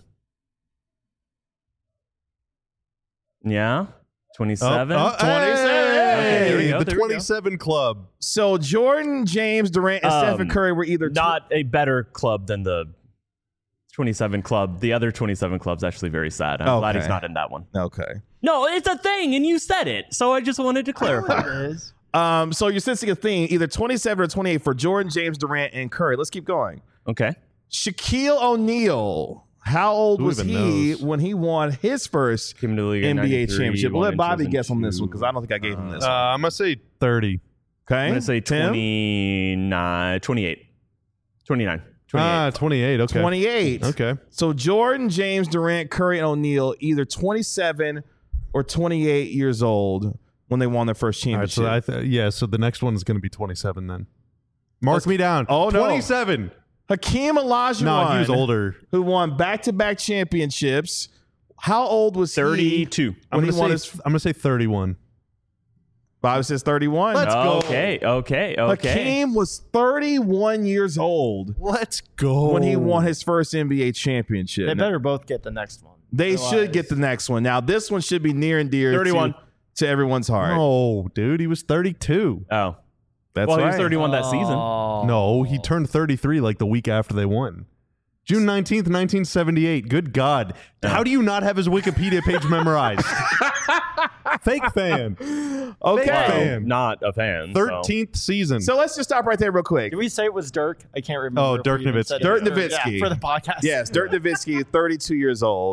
Yeah? twenty-seven? Oh, oh, twenty-seven. Okay, there we go, the there we go. twenty-seven club. So Jordan, James, Durant, and Um, Stephen Curry were either tw- Not a better club than the twenty-seven club. The other twenty-seven club's actually very sad. I'm glad he's Okay. not in that one. Okay. No, it's a thing, and you said it. So I just wanted to clarify. It is. Um, so you're sensing a theme, either twenty-seven or twenty-eight for Jordan, James, Durant, and Curry. Let's keep going. Okay. Shaquille O'Neal. How old Who was even he knows? when he won his first Came to the league in N B A ninety-three, championship? We'll won let in Bobby guess on this two thousand two. one because I don't think I gave him this Uh, one. I'm going to say thirty. Okay. I'm going to say Tim? twenty-nine, twenty-eight. twenty-nine. twenty-eight. Ah, twenty-eight. Okay. twenty-eight. Okay. So Jordan, James, Durant, Curry, and O'Neal, either twenty-seven or twenty-eight years old when they won their first All right, championship. so I th- yeah, so the next one is going to be twenty-seven then. Mark Let's- me down. Oh, no. twenty-seven. Hakeem Olajuwon, No, he was older. who won back-to-back championships. How old was he? thirty-two. I'm When going he won to his- say I'm going to say thirty-one. Bobby says thirty-one. Let's go. Okay, okay, okay. Hakeem was thirty-one years old Let's go. when he won his first N B A championship. They better both get the next one. They Otherwise- should get the next one. Now, this one should be near and dear thirty-one. To, to everyone's heart. No, dude, he was thirty-two. Oh. That's well, right. he was thirty-one that season. Oh. No, he turned thirty-three like the week after they won. June nineteenth, nineteen seventy-eight. Good God. How do you not have his Wikipedia page memorized? Fake fan. Okay. Fake fan. Not a fan. so- thirteenth season. So let's just stop right there real quick. Did we say it was Dirk? I can't remember. Oh, if we Dirk even Nowitzki. said it. Dirk Or- Nowitzki. Yeah, for the podcast. Yes, Dirk Nowitzki, thirty-two years old,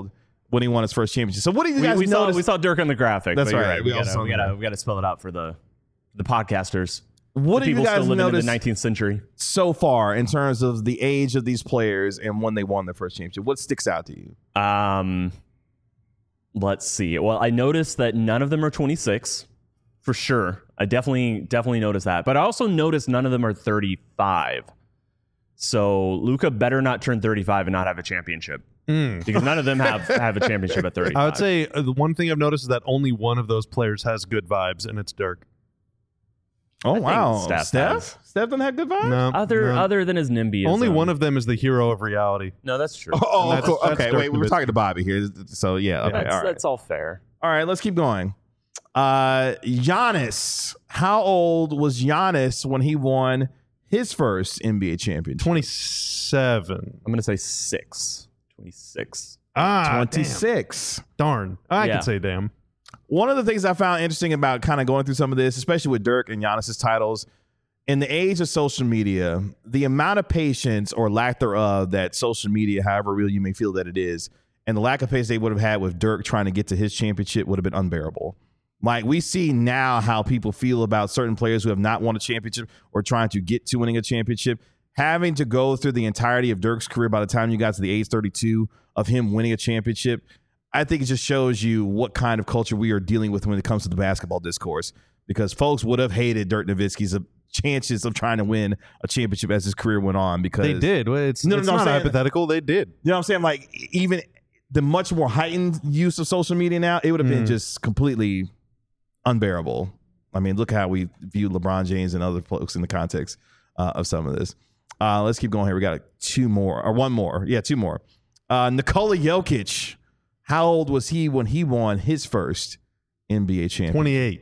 when he won his first championship. So what do you We, guys we saw notice? we saw Dirk on the graphic. That's but you're right. We, We also gotta, saw we, that. gotta, we gotta spell it out for the the podcasters. What the do you people guys still living in notice the nineteenth century? so far in terms of the age of these players and when they won their first championship? What sticks out to you? Um, let's see. Well, I noticed that none of them are twenty-six, for sure. I definitely definitely noticed that. But I also noticed none of them are thirty-five. So Luka better not turn thirty-five and not have a championship, Mm. because none of them have have a championship at thirty-five. I would say uh, the one thing I've noticed is that only one of those players has good vibes, and it's Dirk. Oh, think wow. Steph Steph? has. Steph doesn't have good vibes? No, other no. other than his NIMBY. only one of them is the hero of reality. No, that's true. Oh, And that's- cool. that's Okay, Dirk wait. We were Nowitzki. talking to Bobby here. So, yeah. Okay, that's, all right. that's all fair. All right, let's keep going. Uh, Giannis. How old was Giannis when he won his first N B A championship? twenty-seven. I'm gonna say six. twenty-six. Ah, twenty-six. damn. Darn. I Yeah. could say damn. One of the things I found interesting about kind of going through some of this, especially with Dirk and Giannis's titles, in the age of social media, the amount of patience or lack thereof that social media, however real you may feel that it is, and the lack of patience they would have had with Dirk trying to get to his championship would have been unbearable. Like, we see now how people feel about certain players who have not won a championship or trying to get to winning a championship. Having to go through the entirety of Dirk's career by the time you got to the age thirty-two of him winning a championship, I think it just shows you what kind of culture we are dealing with when it comes to the basketball discourse, because folks would have hated Dirk Nowitzki's chances of trying to win a championship as his career went on, because They did. Well, It's, No, no, it's no, I'm not saying- hypothetical. They did. You know what I'm saying? Like, even the much more heightened use of social media now, it would have been Mhm. just completely unbearable. I mean, look how we view LeBron James and other folks in the context uh, of some of this. Uh, let's keep going here. We got two more, or one more. Yeah, two more. Uh, Nikola Jokic. How old was he when he won his first N B A championship? twenty-eight.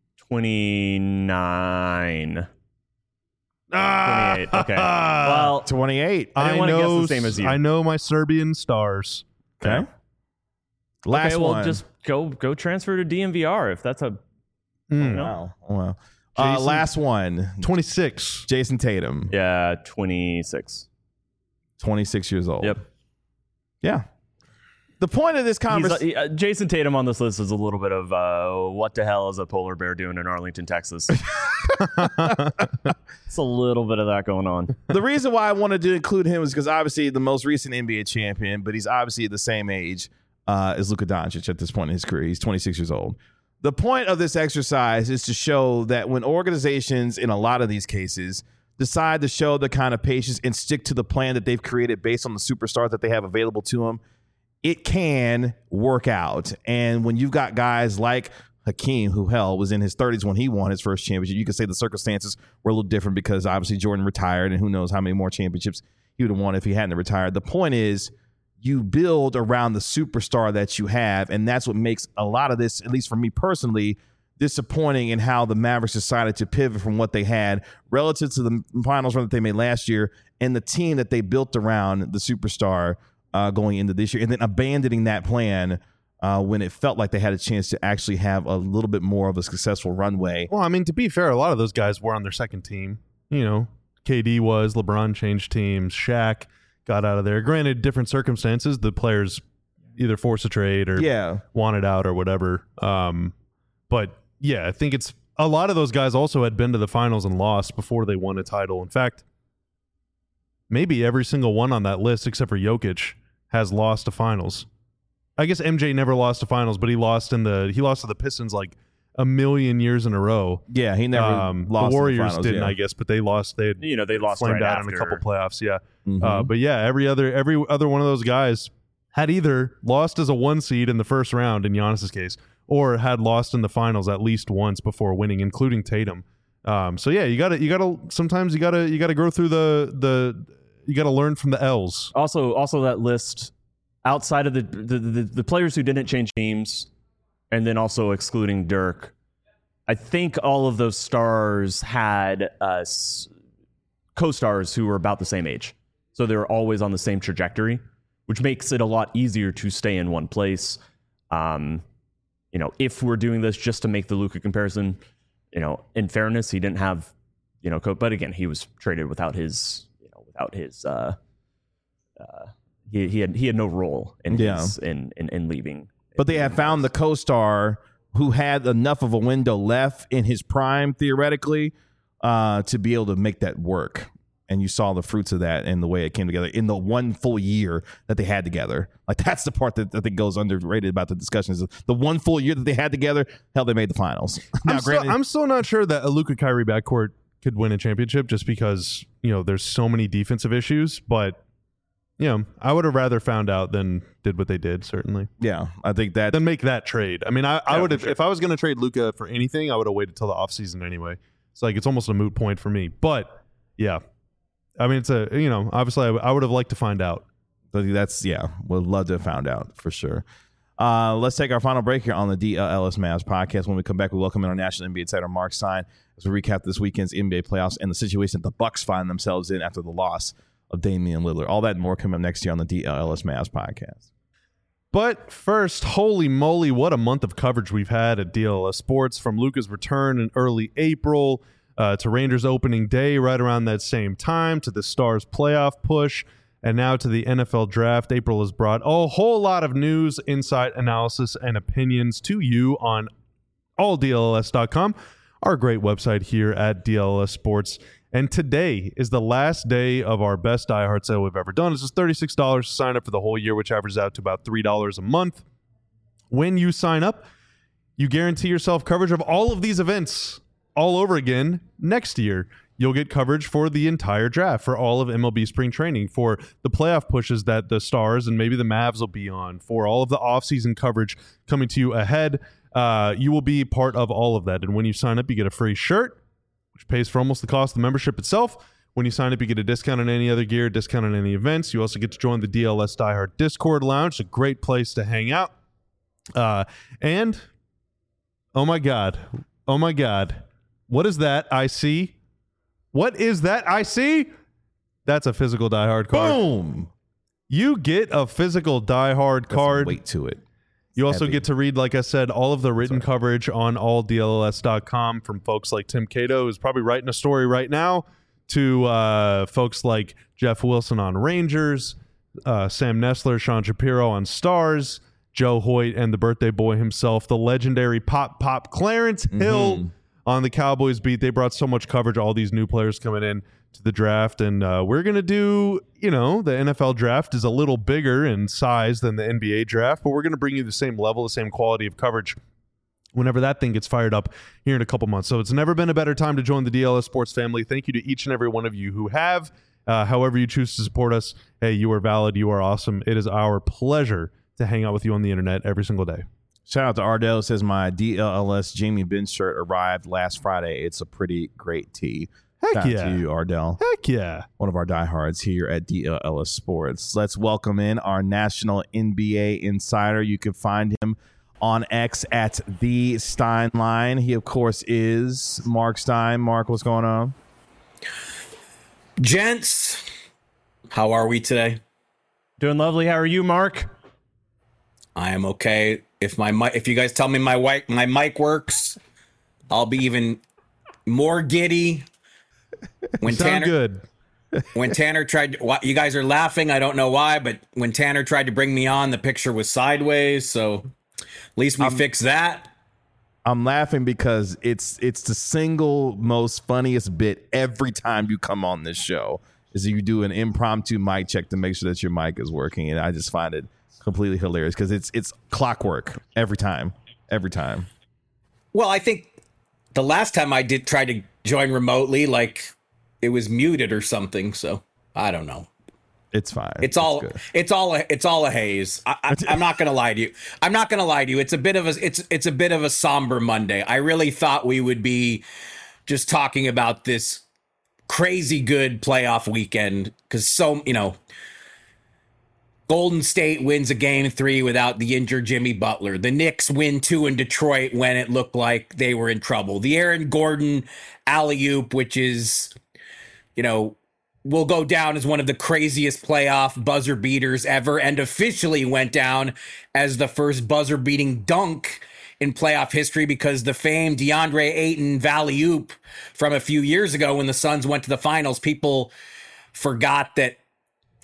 twenty-nine. Ah, twenty-eight. Okay. Well, twenty-eight. I I, didn't wanna guess know. the same as you. I know my Serbian stars. Okay. Last okay, well, one. just go go transfer to D M V R if that's a. Mm. No. wow. Wow. Uh, Jason- last one. twenty-six. Jason Tatum. Yeah, twenty-six. twenty-six years old. Yep. Yeah. The point of this He's, uh, conversation. he- uh, Jason Tatum on this list is a little bit of uh, what the hell is a polar bear doing in Arlington, Texas? It's a little bit of that going on. The reason why I wanted to include him is because obviously the most recent N B A champion, but he's obviously the same age uh, as Luka Doncic at this point in his career. He's twenty-six years old. The point of this exercise is to show that when organizations, in a lot of these cases, decide to show the kind of patience and stick to the plan that they've created based on the superstars that they have available to them, it can work out. And when you've got guys like Hakeem, who hell was in his thirties when he won his first championship, you could say the circumstances were a little different because obviously Jordan retired, and who knows how many more championships he would have won if he hadn't retired. The point is, you build around the superstar that you have, and that's what makes a lot of this, at least for me personally, disappointing in how the Mavericks decided to pivot from what they had relative to the finals run that they made last year and the team that they built around the superstar uh, going into this year, and then abandoning that plan uh, when it felt like they had a chance to actually have a little bit more of a successful runway. Well, I mean, to be fair, a lot of those guys were on their second team. You know, K D was, LeBron changed teams, Shaq got out of there. Granted, different circumstances. The players either forced a trade or Yeah. wanted out or whatever. Um, but yeah, I think it's a lot of those guys also had been to the finals and lost before they won a title. In fact, maybe every single one on that list except for Jokic has lost to finals. I guess M J never lost to finals, but he lost in the he lost to the Pistons like a million years in a row. Yeah, he never Um, lost the in Warriors finals, didn't, yeah. I guess, but they lost. They had You know, they lost flamed right out after. in a couple playoffs. Yeah, Mhm. uh, but yeah, every other every other one of those guys had either lost as a one seed in the first round in Giannis's case, or had lost in the finals at least once before winning, including Tatum. Um, so yeah, you gotta you gotta sometimes you gotta you gotta go through the the you gotta learn from the L's. Also, also that list outside of the the, the the players who didn't change teams, and then also excluding Dirk, I think all of those stars had uh, s- co-stars who were about the same age, so they were always on the same trajectory, which makes it a lot easier to stay in one place. Um, you know, if we're doing this just to make the Luka comparison, you know, in fairness, he didn't have, you know, co- but again, he was traded without his, you know, without his uh, uh, he he had he had no role in Yeah. his, in, in in leaving. But they had found the co-star who had enough of a window left in his prime, theoretically, uh, to be able to make that work. And you saw the fruits of that and the way it came together in the one full year that they had together. Like, that's the part that I think goes underrated about the discussion is the one full year that they had together, hell, they made the finals. Now, I'm, still, granted, I'm still not sure that a Luka Kyrie backcourt could win a championship just because, you know, there's so many defensive issues. But, you know, I would have rather found out than did what they did, certainly. yeah, I think that Then make that trade. I mean, I, I Yeah, would for have, sure. if I was going to trade Luka for anything, I would have waited till the offseason anyway. It's like, it's almost a moot point for me. But, yeah. I mean, it's a, you know, obviously I, I would have liked to find out. But that's, yeah, would love to have found out for sure. Uh, let's take our final break here on the D L Ellis Mavs podcast. When we come back, we welcome in our national N B A insider, Mark Stein, as we recap this weekend's N B A playoffs and the situation that the Bucks find themselves in after the loss of Damian Lillard. All that and more coming up next year on the D L Ellis Mavs podcast. But first, holy moly, what a month of coverage we've had at D L S Sports, from Luka's return in early April uh, to Rangers opening day right around that same time, to the Stars playoff push, and now to the N F L draft. April has brought a whole lot of news, insight, analysis, and opinions to you on all D L S dot com, our great website here at D L S Sports. And today is the last day of our best diehard sale we've ever done. It's just thirty-six dollars to sign up for the whole year, which averages out to about three dollars a month. When you sign up, you guarantee yourself coverage of all of these events all over again next year. You'll get coverage for the entire draft, for all of M L B spring training, for the playoff pushes that the Stars and maybe the Mavs will be on, for all of the offseason coverage coming to you ahead. Uh, you will be part of all of that. And when you sign up, you get a free shirt, which pays for almost the cost of the membership itself. When you sign up, you get a discount on any other gear, discount on any events. You also get to join the D L S Die Hard Discord Lounge, a great place to hang out. Uh, and, oh my God, oh my God, what is that I see? What is that I see? That's a physical Die Hard card. Boom! You get a physical Die Hard Got some card. weight to it. You also Heavy. get to read, like I said, all of the written coverage on all D L S dot com from folks like Tim Cato, who's probably writing a story right now, to uh, folks like Jeff Wilson on Rangers, uh, Sam Nessler, Sean Shapiro on Stars, Joe Hoyt, and the birthday boy himself, the legendary Pop Pop Clarence Hill on the Cowboys beat. They brought so much coverage, all these new players coming in to the draft, and uh, we're going to do, you know, the N F L draft is a little bigger in size than the N B A draft, but we're going to bring you the same level, the same quality of coverage whenever that thing gets fired up here in a couple months. So it's never been a better time to join the D L S Sports family. Thank you to each and every one of you who have. Uh, however you choose to support us, hey, you are valid, you are awesome. It is our pleasure to hang out with you on the internet every single day. Shout out to Ardell. Says my D L L S Jamie Benz shirt arrived last Friday. It's a pretty great tee. Heck Shout out yeah. to you, Ardell. Heck yeah. One of our diehards here at D L L S Sports. Let's welcome in our national N B A insider. You can find him on X at the Steinline. He, of course, is Mark Stein. Mark, what's going on? Gents, how are we today? Doing lovely. How are you, Mark? I am okay. If my mic, if you guys tell me my mic, my mic works, I'll be even more giddy. When Sound Tanner, good. when Tanner tried, to, why- you guys are laughing. I don't know why, but when Tanner tried to bring me on, the picture was sideways. So at least we fixed that. I'm laughing because it's it's the single most funniest bit every time you come on this show is you do an impromptu mic check to make sure that your mic is working, and I just find it completely hilarious because it's it's clockwork every time, every time. Well, I think the last time I did try to join remotely, like it was muted or something. So I don't know. It's fine. It's all good. it's all a, it's all a haze. I, I, I'm not gonna lie to you. I'm not gonna lie to you. It's a bit of a it's it's a bit of a somber Monday. I really thought we would be just talking about this crazy good playoff weekend because so you know. Golden State wins a game three without the injured Jimmy Butler. The Knicks win two in Detroit when it looked like they were in trouble. The Aaron Gordon alley-oop, which is, you know, will go down as one of the craziest playoff buzzer beaters ever and officially went down as the first buzzer beating dunk in playoff history because the famed DeAndre Ayton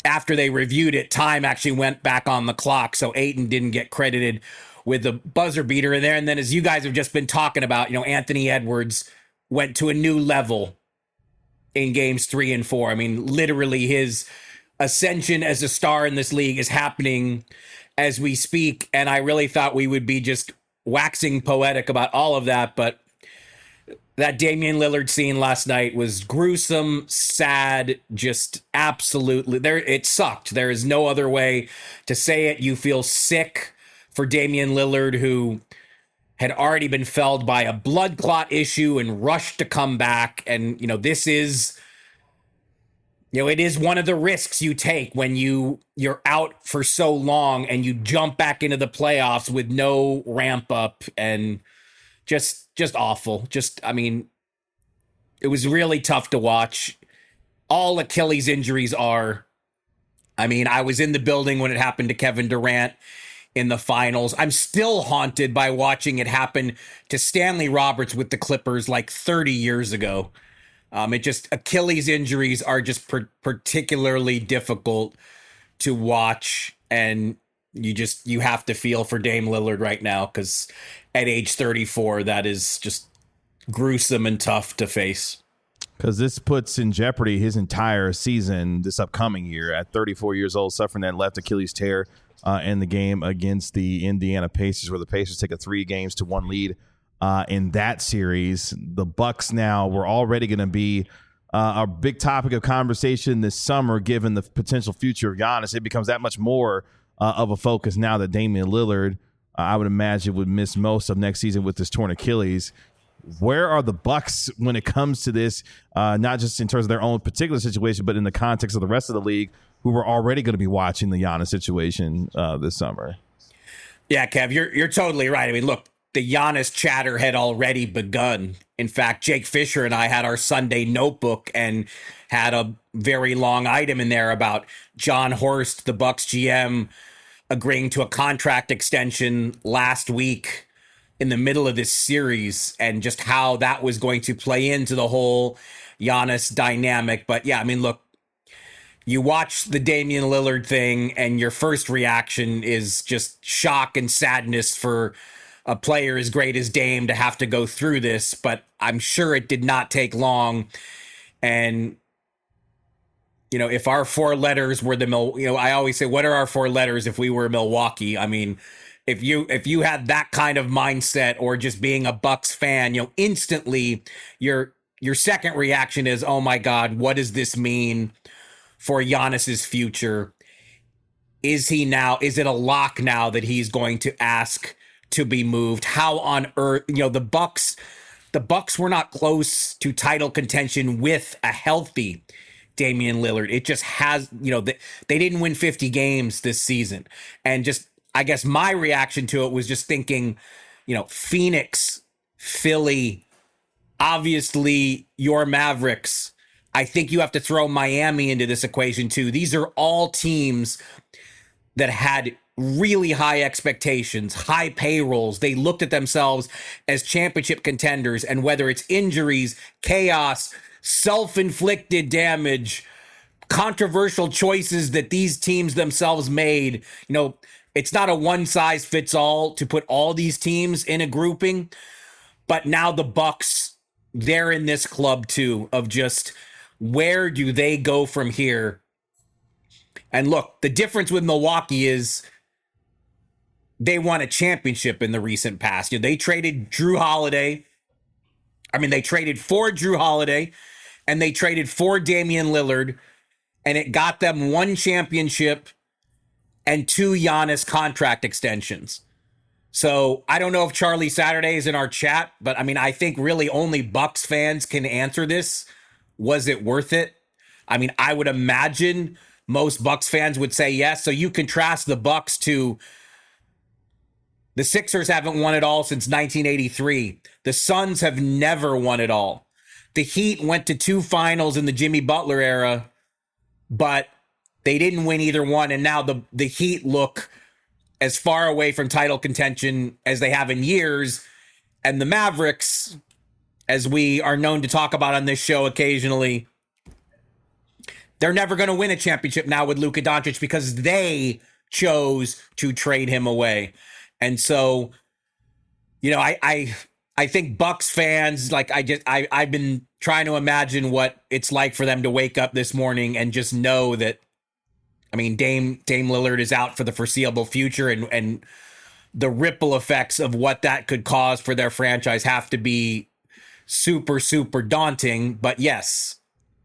after they reviewed it, time actually went back on the clock. So Ayton didn't get credited with the buzzer beater in there. And then, as you guys have just been talking about, you know, Anthony Edwards went to a new level in games three and four. I mean, literally his ascension as a star in this league is happening as we speak. And I really thought we would be just waxing poetic about all of that. But that Damian Lillard scene last night was gruesome, sad, just absolutely there. It sucked. There is no other way to say it. You feel sick for Damian Lillard, who had already been felled by a blood clot issue and rushed to come back. And, you know, this is, you know, it is one of the risks you take when you you're out for so long and you jump back into the playoffs with no ramp up, and just just awful. Just, I mean, it was really tough to watch. All Achilles injuries are. I mean, I was in the building when it happened to Kevin Durant in the finals. I'm still haunted by watching it happen to Stanley Roberts with the Clippers like thirty years ago. Um, it just, Achilles injuries are just per- particularly difficult to watch. And you just, you have to feel for Dame Lillard right now, because at age thirty-four, that is just gruesome and tough to face. Because this puts in jeopardy his entire season this upcoming year at thirty-four years old, suffering that left Achilles tear uh, in the game against the Indiana Pacers, where the Pacers take a three games to one lead uh, in that series. The Bucks now were already going to be uh, a big topic of conversation this summer, given the potential future of Giannis. It becomes that much more uh, of a focus now that Damian Lillard, uh, I would imagine, would miss most of next season with this torn Achilles. Where are the Bucks when it comes to this, uh, not just in terms of their own particular situation, but in the context of the rest of the league, who were already going to be watching the Giannis situation uh, this summer? Yeah, Kev, you're you're totally right. I mean, look, the Giannis chatter had already begun. In fact, Jake Fisher and I had our Sunday notebook and had a very long item in there about John Horst, the Bucks G M, agreeing to a contract extension last week in the middle of this series, and just how that was going to play into the whole Giannis dynamic. But yeah, I mean, look, you watch the Damian Lillard thing and your first reaction is just shock and sadness for a player as great as Dame to have to go through this. But I'm sure it did not take long. And, you know, if our four letters were the, Mil- you know, I always say, what are our four letters if we were Milwaukee? I mean, If you if you had that kind of mindset, or just being a Bucks fan, you know, instantly your your second reaction is, oh my God, what does this mean for Giannis's future? Is he now, is it a lock now that he's going to ask to be moved? How on earth, you know, the Bucks, the Bucks were not close to title contention with a healthy Damian Lillard. It just has, you know, they, they didn't win fifty games this season. And just, I guess my reaction to it was just thinking, you know, Phoenix, Philly, obviously your Mavericks. I think you have to throw Miami into this equation too. These are all teams that had really high expectations, high payrolls. They looked at themselves as championship contenders, and whether it's injuries, chaos, self-inflicted damage, controversial choices that these teams themselves made, you know, it's not a one size fits all to put all these teams in a grouping, but now the Bucks, they're in this club too, of just where do they go from here? And look, the difference with Milwaukee is they won a championship in the recent past. You know, they traded Drew Holiday. I mean, they traded for Drew Holiday and they traded for Damian Lillard, and it got them one championship and two Giannis contract extensions. So I don't know if Charlie Saturday is in our chat, but I mean, I think really only Bucks fans can answer this. Was it worth it? I mean, I would imagine most Bucks fans would say yes. So you contrast the Bucks to the Sixers haven't won it all since nineteen eighty-three. The Suns have never won it all. The Heat went to two finals in the Jimmy Butler era, but they didn't win either one, and now the, the Heat look as far away from title contention as they have in years. And the Mavericks, as we are known to talk about on this show occasionally, They're never going to win a championship now with Luka Doncic because they chose to trade him away. And so, you know, I I I think Bucks fans, like I just I I've been trying to imagine what it's like for them to wake up this morning and just know that, I mean, Dame Dame Lillard is out for the foreseeable future, and and the ripple effects of what that could cause for their franchise have to be super, super daunting. But yes,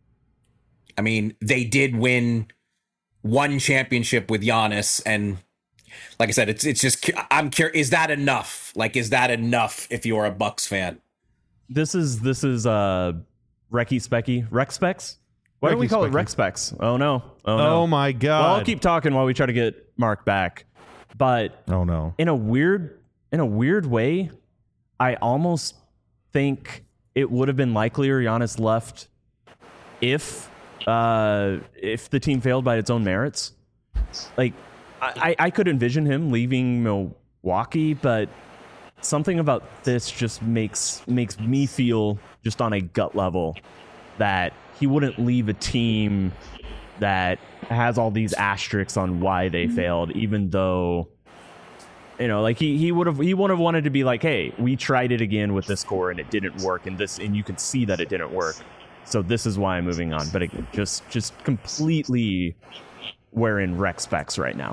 I mean, they did win one championship with Giannis, and like I said, it's it's just, I'm curious, is that enough? Like, is that enough if you're a Bucks fan? This is this is uh Recky Specky Rex Specs. Why don't we call it Rex Specs? Oh no! Oh no! Oh my god! Well, I'll keep talking while we try to get Mark back. But Oh no! in a weird in a weird way, I almost think it would have been likelier Giannis left if uh, if the team failed by its own merits. Like I, I could envision him leaving Milwaukee, but something about this just makes makes me feel, just on a gut level, that he wouldn't leave a team that has all these asterisks on why they failed, even though, you know, like he he would have he would have wanted to be like, hey, we tried it again with this core and it didn't work, and this and you can see that it didn't work, so this is why I'm moving on. But it just just completely wearing Rex Specs right now.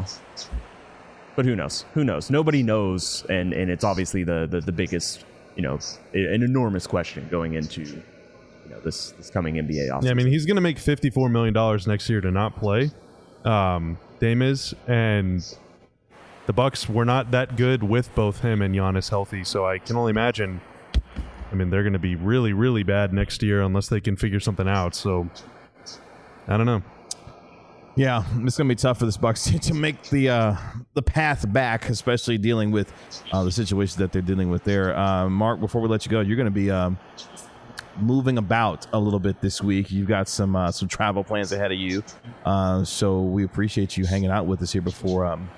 But who knows? Who knows? Nobody knows, and and it's obviously the the, the biggest, you know, an enormous question going into, you know, this this coming N B A offseason. Yeah, I mean, he's going to make fifty-four million dollars next year to not play. Um, Dame is, and the Bucks were not that good with both him and Giannis healthy, so I can only imagine. I mean, they're going to be really, really bad next year unless they can figure something out. So, I don't know. Yeah, it's going to be tough for this Bucks team to make the uh, the path back, especially dealing with uh, the situations that they're dealing with there. Uh, Mark, before we let you go, you're going to be um, moving about a little bit this week. You've got some uh, some travel plans ahead of you, uh, so we appreciate you hanging out with us here before um,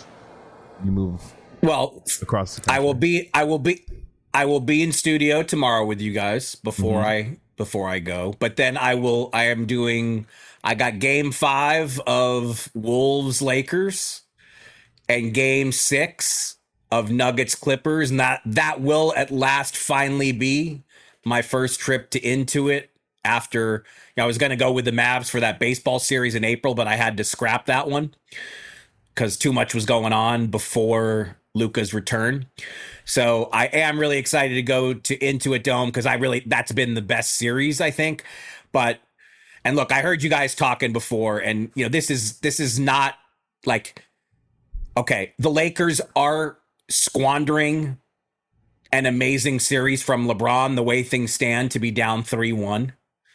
you move. Well, across the country. I will be. I will be. I will be in studio tomorrow with you guys before mm-hmm. I before I go. But then I will. I am doing. I got game five of Wolves Lakers and game six of Nuggets Clippers. And that, that will at last finally be my first trip to Intuit after, you know, I was going to go with the Mavs for that baseball series in April, but I had to scrap that one because too much was going on before Luka's return. So I am really excited to go to Intuit Dome because I really, that's been the best series, I think. But And look, I heard you guys talking before, and you know, this is this is not like, okay, the Lakers are squandering an amazing series from LeBron the way things stand to be down three one.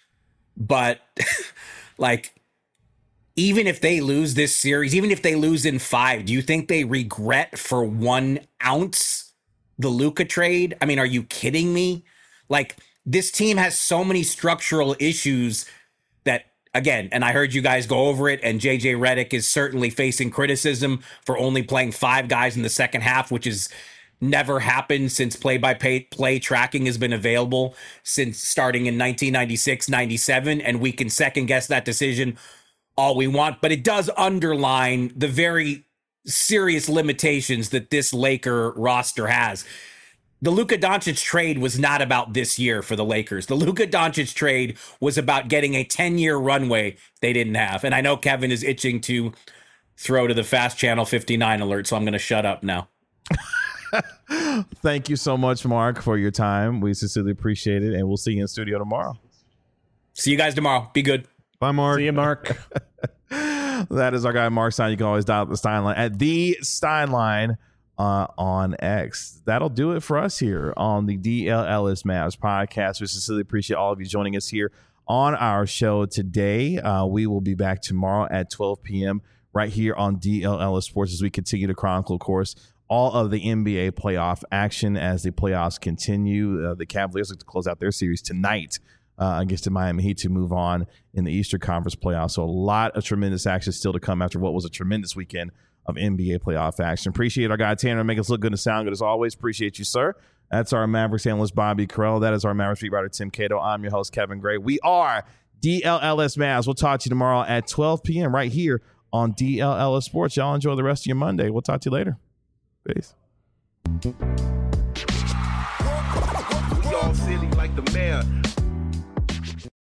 But like, even if they lose this series, even if they lose in five, do you think they regret for one ounce the Luka trade? I mean, are you kidding me? Like, this team has so many structural issues that, again, and I heard you guys go over it, and J J Redick is certainly facing criticism for only playing five guys in the second half, which has never happened since play-by-play play tracking has been available since starting in nineteen ninety-six ninety-seven, and we can second-guess that decision all we want, but it does underline the very serious limitations that this Laker roster has. The Luka Doncic trade was not about this year for the Lakers. The Luka Doncic trade was about getting a ten-year runway they didn't have. And I know Kevin is itching to throw to the Fast Channel fifty-nine alert, so I'm going to shut up now. Thank you so much, Mark, for your time. We sincerely appreciate it, and we'll see you in studio tomorrow. See you guys tomorrow. Be good. Bye, Mark. See you, Mark. That is our guy, Mark Stein. You can always dial up the Steinline at the Steinline uh, on X. That'll do it for us here on the D L Ellis Mavs podcast. We sincerely appreciate all of you joining us here on our show today. Uh, we will be back tomorrow at twelve p.m. right here on D L Ellis Sports as we continue to chronicle, of course, all of the N B A playoff action as the playoffs continue. Uh, the Cavaliers look to close out their series tonight uh, against the Miami Heat to move on in the Eastern Conference playoffs. So a lot of tremendous action still to come after what was a tremendous weekend of N B A playoff action. Appreciate our guy Tanner, make us look good and sound good as always. Appreciate you, sir. That's our Mavericks analyst Bobby Carell. That is our Mavericks beat writer Tim Cato. I'm your host Kevin Gray. We are D L L S Mavs. We'll talk to you tomorrow at twelve p.m. right here on D L L S Sports. Y'all enjoy the rest of your Monday. We'll talk to you later. Peace. We all silly like the mayor.